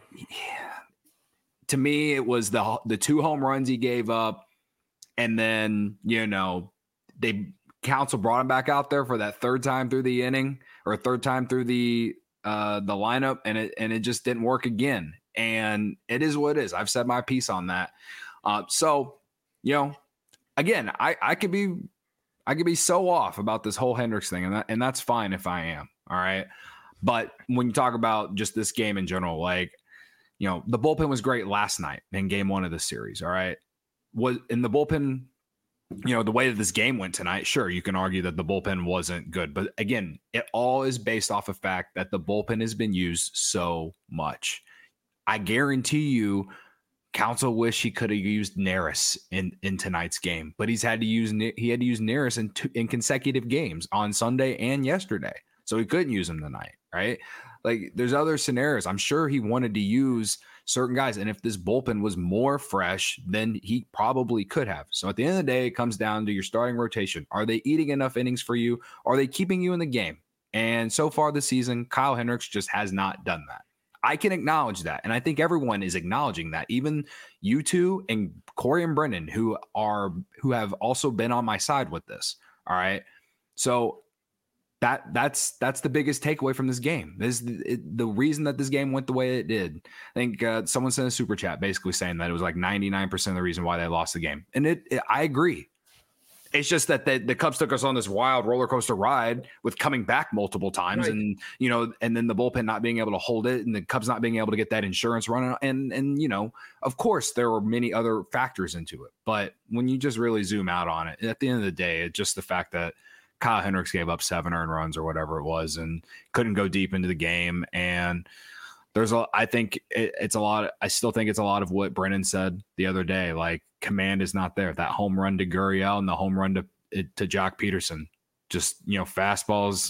to me, it was the the two home runs he gave up, and then you know they Counsell brought him back out there for that third time through the inning or third time through the uh, the lineup, and it and it just didn't work again. And it is what it is. I've said my piece on that. Uh, so you know, again, I I could be I could be so off about this whole Hendricks thing, and that, and that's fine if I am. All right, but when you talk about just this game in general, like. You know, the bullpen was great last night in game one of the series. All right. Was in the bullpen, you know, the way that this game went tonight, sure, you can argue that the bullpen wasn't good. But again, it all is based off of fact that the bullpen has been used so much. I guarantee you, Counsell wish he could have used Neris in, in tonight's game, but he's had to use he had to use Neris in two, in consecutive games on Sunday and yesterday. So he couldn't use him tonight, right? Like there's other scenarios. I'm sure he wanted to use certain guys. And if this bullpen was more fresh, then he probably could have. So at the end of the day, it comes down to your starting rotation. Are they eating enough innings for you? Are they keeping you in the game? And so far this season, Kyle Hendricks just has not done that. I can acknowledge that. And I think everyone is acknowledging that. Even you two and Corey and Brendan, who are who have also been on my side with this. All right. So That that's that's the biggest takeaway from this game. This is the, the reason that this game went the way it did. I think uh, someone sent a super chat basically saying that it was like ninety-nine percent of the reason why they lost the game, and it, it I agree. It's just that the, the Cubs took us on this wild roller coaster ride with coming back multiple times, right. and you know, and then the bullpen not being able to hold it, and the Cubs not being able to get that insurance running, and and you know, of course, there were many other factors into it. But when you just really zoom out on it, at the end of the day, it's just the fact that Kyle Hendricks gave up seven earned runs or whatever it was and couldn't go deep into the game. And there's a, I think it, it's a lot. I still think it's a lot of what Brennan said the other day. Like command is not there. That home run to Gurriel and the home run to, to Jock Peterson, just, you know, fastballs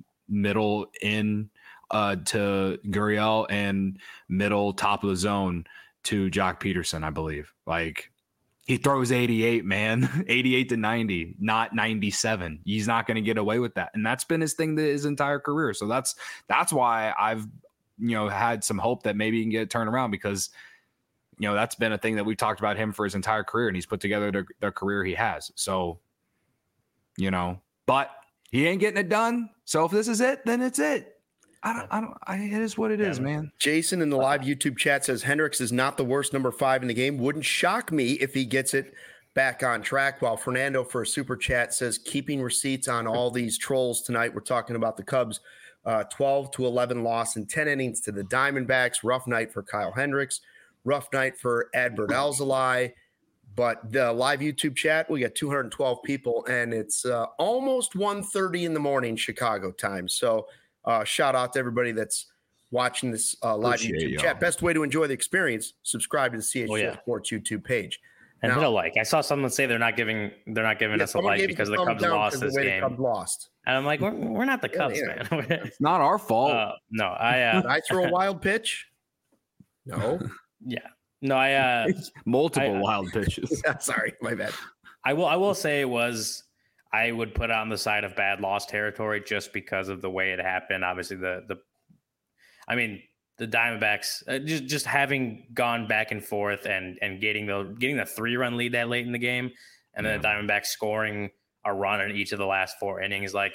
middle in uh, to Gurriel and middle top of the zone to Jock Peterson, I believe. Like, he throws eighty-eight, man, eighty-eight to ninety, not ninety-seven. He's not going to get away with that. And that's been his thing his entire career. So that's, that's why I've, you know, had some hope that maybe he can get it turned around because, you know, that's been a thing that we've talked about him for his entire career and he's put together the, the career he has. So, you know, but he ain't getting it done. So if this is it, then it's it. I don't, I don't, I, it is what it yeah. is, man. Jason in the live YouTube chat says Hendricks is not the worst number five in the game. Wouldn't shock me if he gets it back on track. While Fernando for a super chat says keeping receipts on all these trolls tonight. We're talking about the Cubs, uh, twelve to eleven loss in ten innings to the Diamondbacks. Rough night for Kyle Hendricks. Rough night for Adbert Alzolay. But the live YouTube chat, we got two hundred twelve people, and it's uh, almost one thirty in the morning Chicago time. So, Uh, shout out to everybody that's watching this uh, live Appreciate YouTube y'all. chat. Best way to enjoy the experience: subscribe to the C H G O oh, yeah. Sports YouTube page. And now, hit a like. I saw someone say they're not giving they're not giving yeah, us a like because the Cubs lost this game. Cubs lost, and I'm like, we're, we're not the Cubs, yeah, yeah. man. It's not our fault. Uh, no, I. Uh, Did I throw a wild pitch? No. Yeah. No, I. Uh, Multiple I, wild pitches. Yeah, sorry, my bad. I will. I will say it was. I would put it on the side of bad loss territory just because of the way it happened. Obviously, the the, I mean, the Diamondbacks uh, just just having gone back and forth and and getting the getting the three run lead that late in the game, and then yeah. the Diamondbacks scoring a run in each of the last four innings, like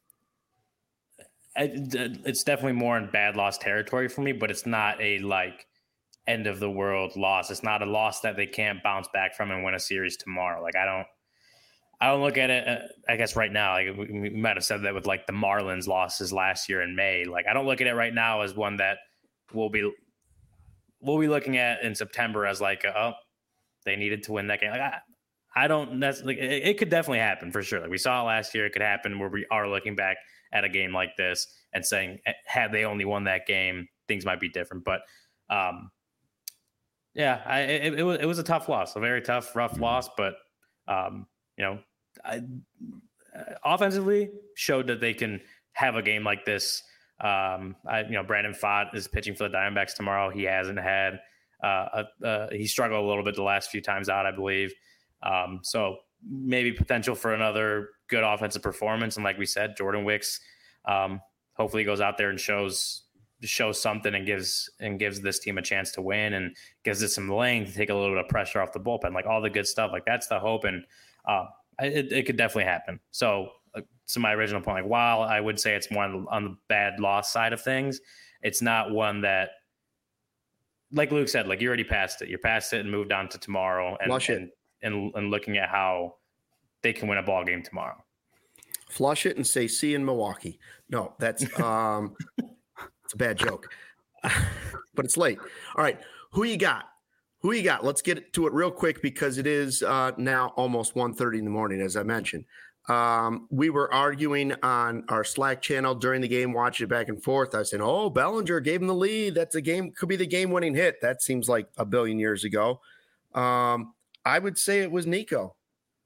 it, it's definitely more in bad loss territory for me. But it's not a like end of the world loss. It's not a loss that they can't bounce back from and win a series tomorrow. Like I don't. I don't look at it, uh, I guess right now, like we, we might have said that with like the Marlins losses last year in May. Like, I don't look at it right now as one that we'll be, we'll be looking at in September as like, oh, they needed to win that game. Like, I, I don't, that's like, it, it could definitely happen for sure. Like we saw it last year. It could happen where we are looking back at a game like this and saying, had they only won that game, things might be different. But, um, yeah, I, it, it was, it was a tough loss, a very tough, rough mm-hmm. loss, but, um, you know, I, uh, offensively showed that they can have a game like this. Um, I, you know, Brandon Pfaadt is pitching for the Diamondbacks tomorrow. He hasn't had, uh, a, uh, he struggled a little bit the last few times out, I believe. Um, so maybe potential for another good offensive performance. And like we said, Jordan Wicks, um, hopefully goes out there and shows shows something and gives and gives this team a chance to win and gives it some length, take a little bit of pressure off the bullpen, like all the good stuff. Like that's the hope, and uh, it, it could definitely happen. So, uh, to my original point, like while I would say it's more on, on the bad loss side of things, it's not one that, like Luke said, like you already passed it. You're past it and moved on to tomorrow, and Flush it. and, and and looking at how they can win a ball game tomorrow. Flush it and say, see you in Milwaukee. No, that's um, it's a bad joke, but it's late. All right. Who you got? Who you got? Let's get to it real quick because it is uh, now almost one thirty in the morning, as I mentioned. Um, we were arguing on our Slack channel during the game, watching it back and forth. I was saying, oh, Bellinger gave him the lead. That's a game, could be the game-winning hit. That seems like a billion years ago. Um, I would say it was Nico.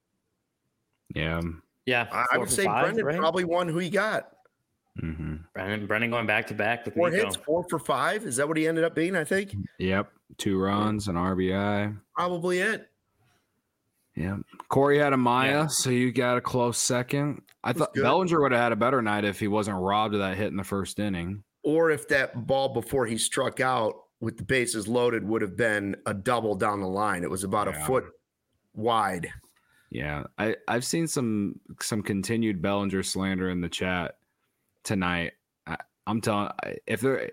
Yeah. Yeah. I would say five, Brendan right? probably won. Who you got? Mm-hmm. Brendan, Brendan going back to back with Four Nico. hits, four for five. Is that what he ended up being? I think Yep. Two runs, an R B I. probably it. Yeah. Corey had a Maya, Yeah. so you got a close second. I thought good. Bellinger would have had a better night if he wasn't robbed of that hit in the first inning. Or if that ball before he struck out with the bases loaded would have been a double down the line. It was about Yeah. a foot wide. Yeah, I I've seen some some continued Bellinger slander in the chat tonight. I, I'm telling if there,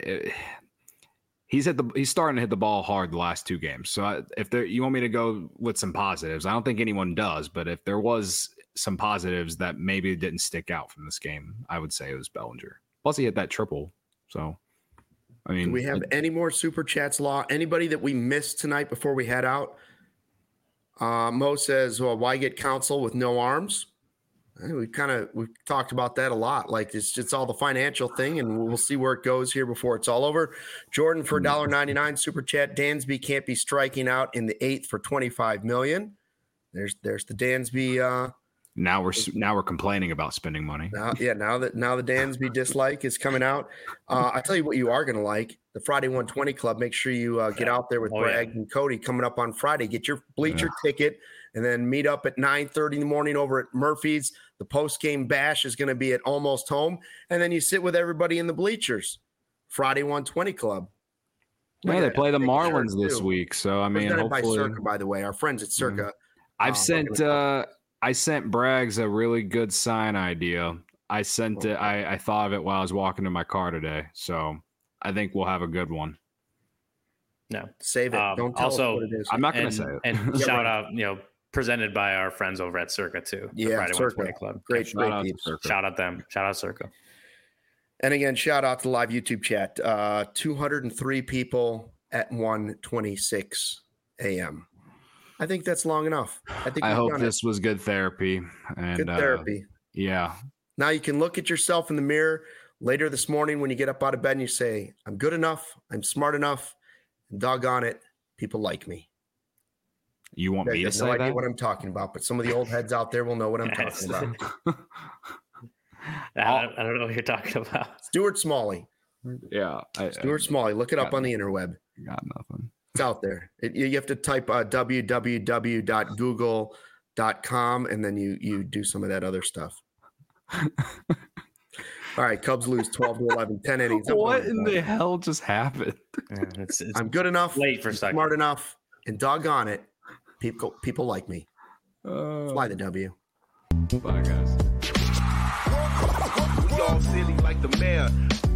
he's hit the he's starting to hit the ball hard the last two games. So I, if there, you want me to go with some positives, I don't think anyone does. But if there was some positives that maybe didn't stick out from this game, I would say it was Bellinger. Plus, he hit that triple. So, I mean, Do we have it, any more super chats, Law? Anybody that we missed tonight before we head out? Uh, Mo says, well, why get counsel with no arms? I think we kind of we've talked about that a lot. Like it's it's all the financial thing, and we'll see where it goes here before it's all over. Jordan for one dollar ninety-nine super chat. Dansby can't be striking out in the eighth for twenty-five million. There's there's the Dansby. Uh, now we're now we're complaining about spending money. now, yeah, now that now the Dansby dislike is coming out. Uh, I tell you what, you are going to like the Friday one twenty Club. Make sure you uh, get out there with Oh, Bragg yeah. and Cody coming up on Friday. Get your bleacher Yeah. ticket, and then meet up at nine thirty in the morning over at Murphy's. The post game bash is going to be at Almost Home, and then you sit with everybody in the bleachers. Friday one twenty Club. Look Yeah, at they that. play the Big Marlins shirt, this too. week, so I mean, Presented by hopefully, Circa, by the way, our friends at Circa. I've uh, sent working with- uh, I sent Braggs a really good sign idea. I sent it. I, I thought of it while I was walking to my car today, so I think we'll have a good one. No. Save it. Um, Don't tell also, us what it is. I'm not going And, to say it. and Yeah, shout right. out, you know, presented by our friends over at Circa too. the Yeah, Friday Circa. one twenty Club. Great, Shout great out to peeps. Circa. Shout out them. Shout out Circa. And again, shout out to the live YouTube chat. Uh, two hundred three people at one twenty-six a.m. I think that's long enough. I think I we've hope done this was good therapy. And it. Good uh, therapy. yeah, Now you can look at yourself in the mirror later this morning when you get up out of bed and you say, I'm good enough. I'm smart enough. And doggone it, people like me. you want You me to have say no idea that? what I'm talking about, but some of the old heads out there will know what I'm Yes. talking about. I, don't, I don't know what you're talking about. Stuart Smalley. yeah, I, Stuart Smalley. Look it up got on the interweb. I got nothing. It's out there. It, you you have to type uh, w w w dot google dot com and then you you do some of that other stuff. All right, Cubs lose twelve to eleven, ten innings. I'm What going in to the bed. hell just happened? Yeah, it's, it's I'm good enough, late for I'm second. smart enough, and doggone it, people people like me. Uh, Fly the W. bye, guys. We all silly like the mayor.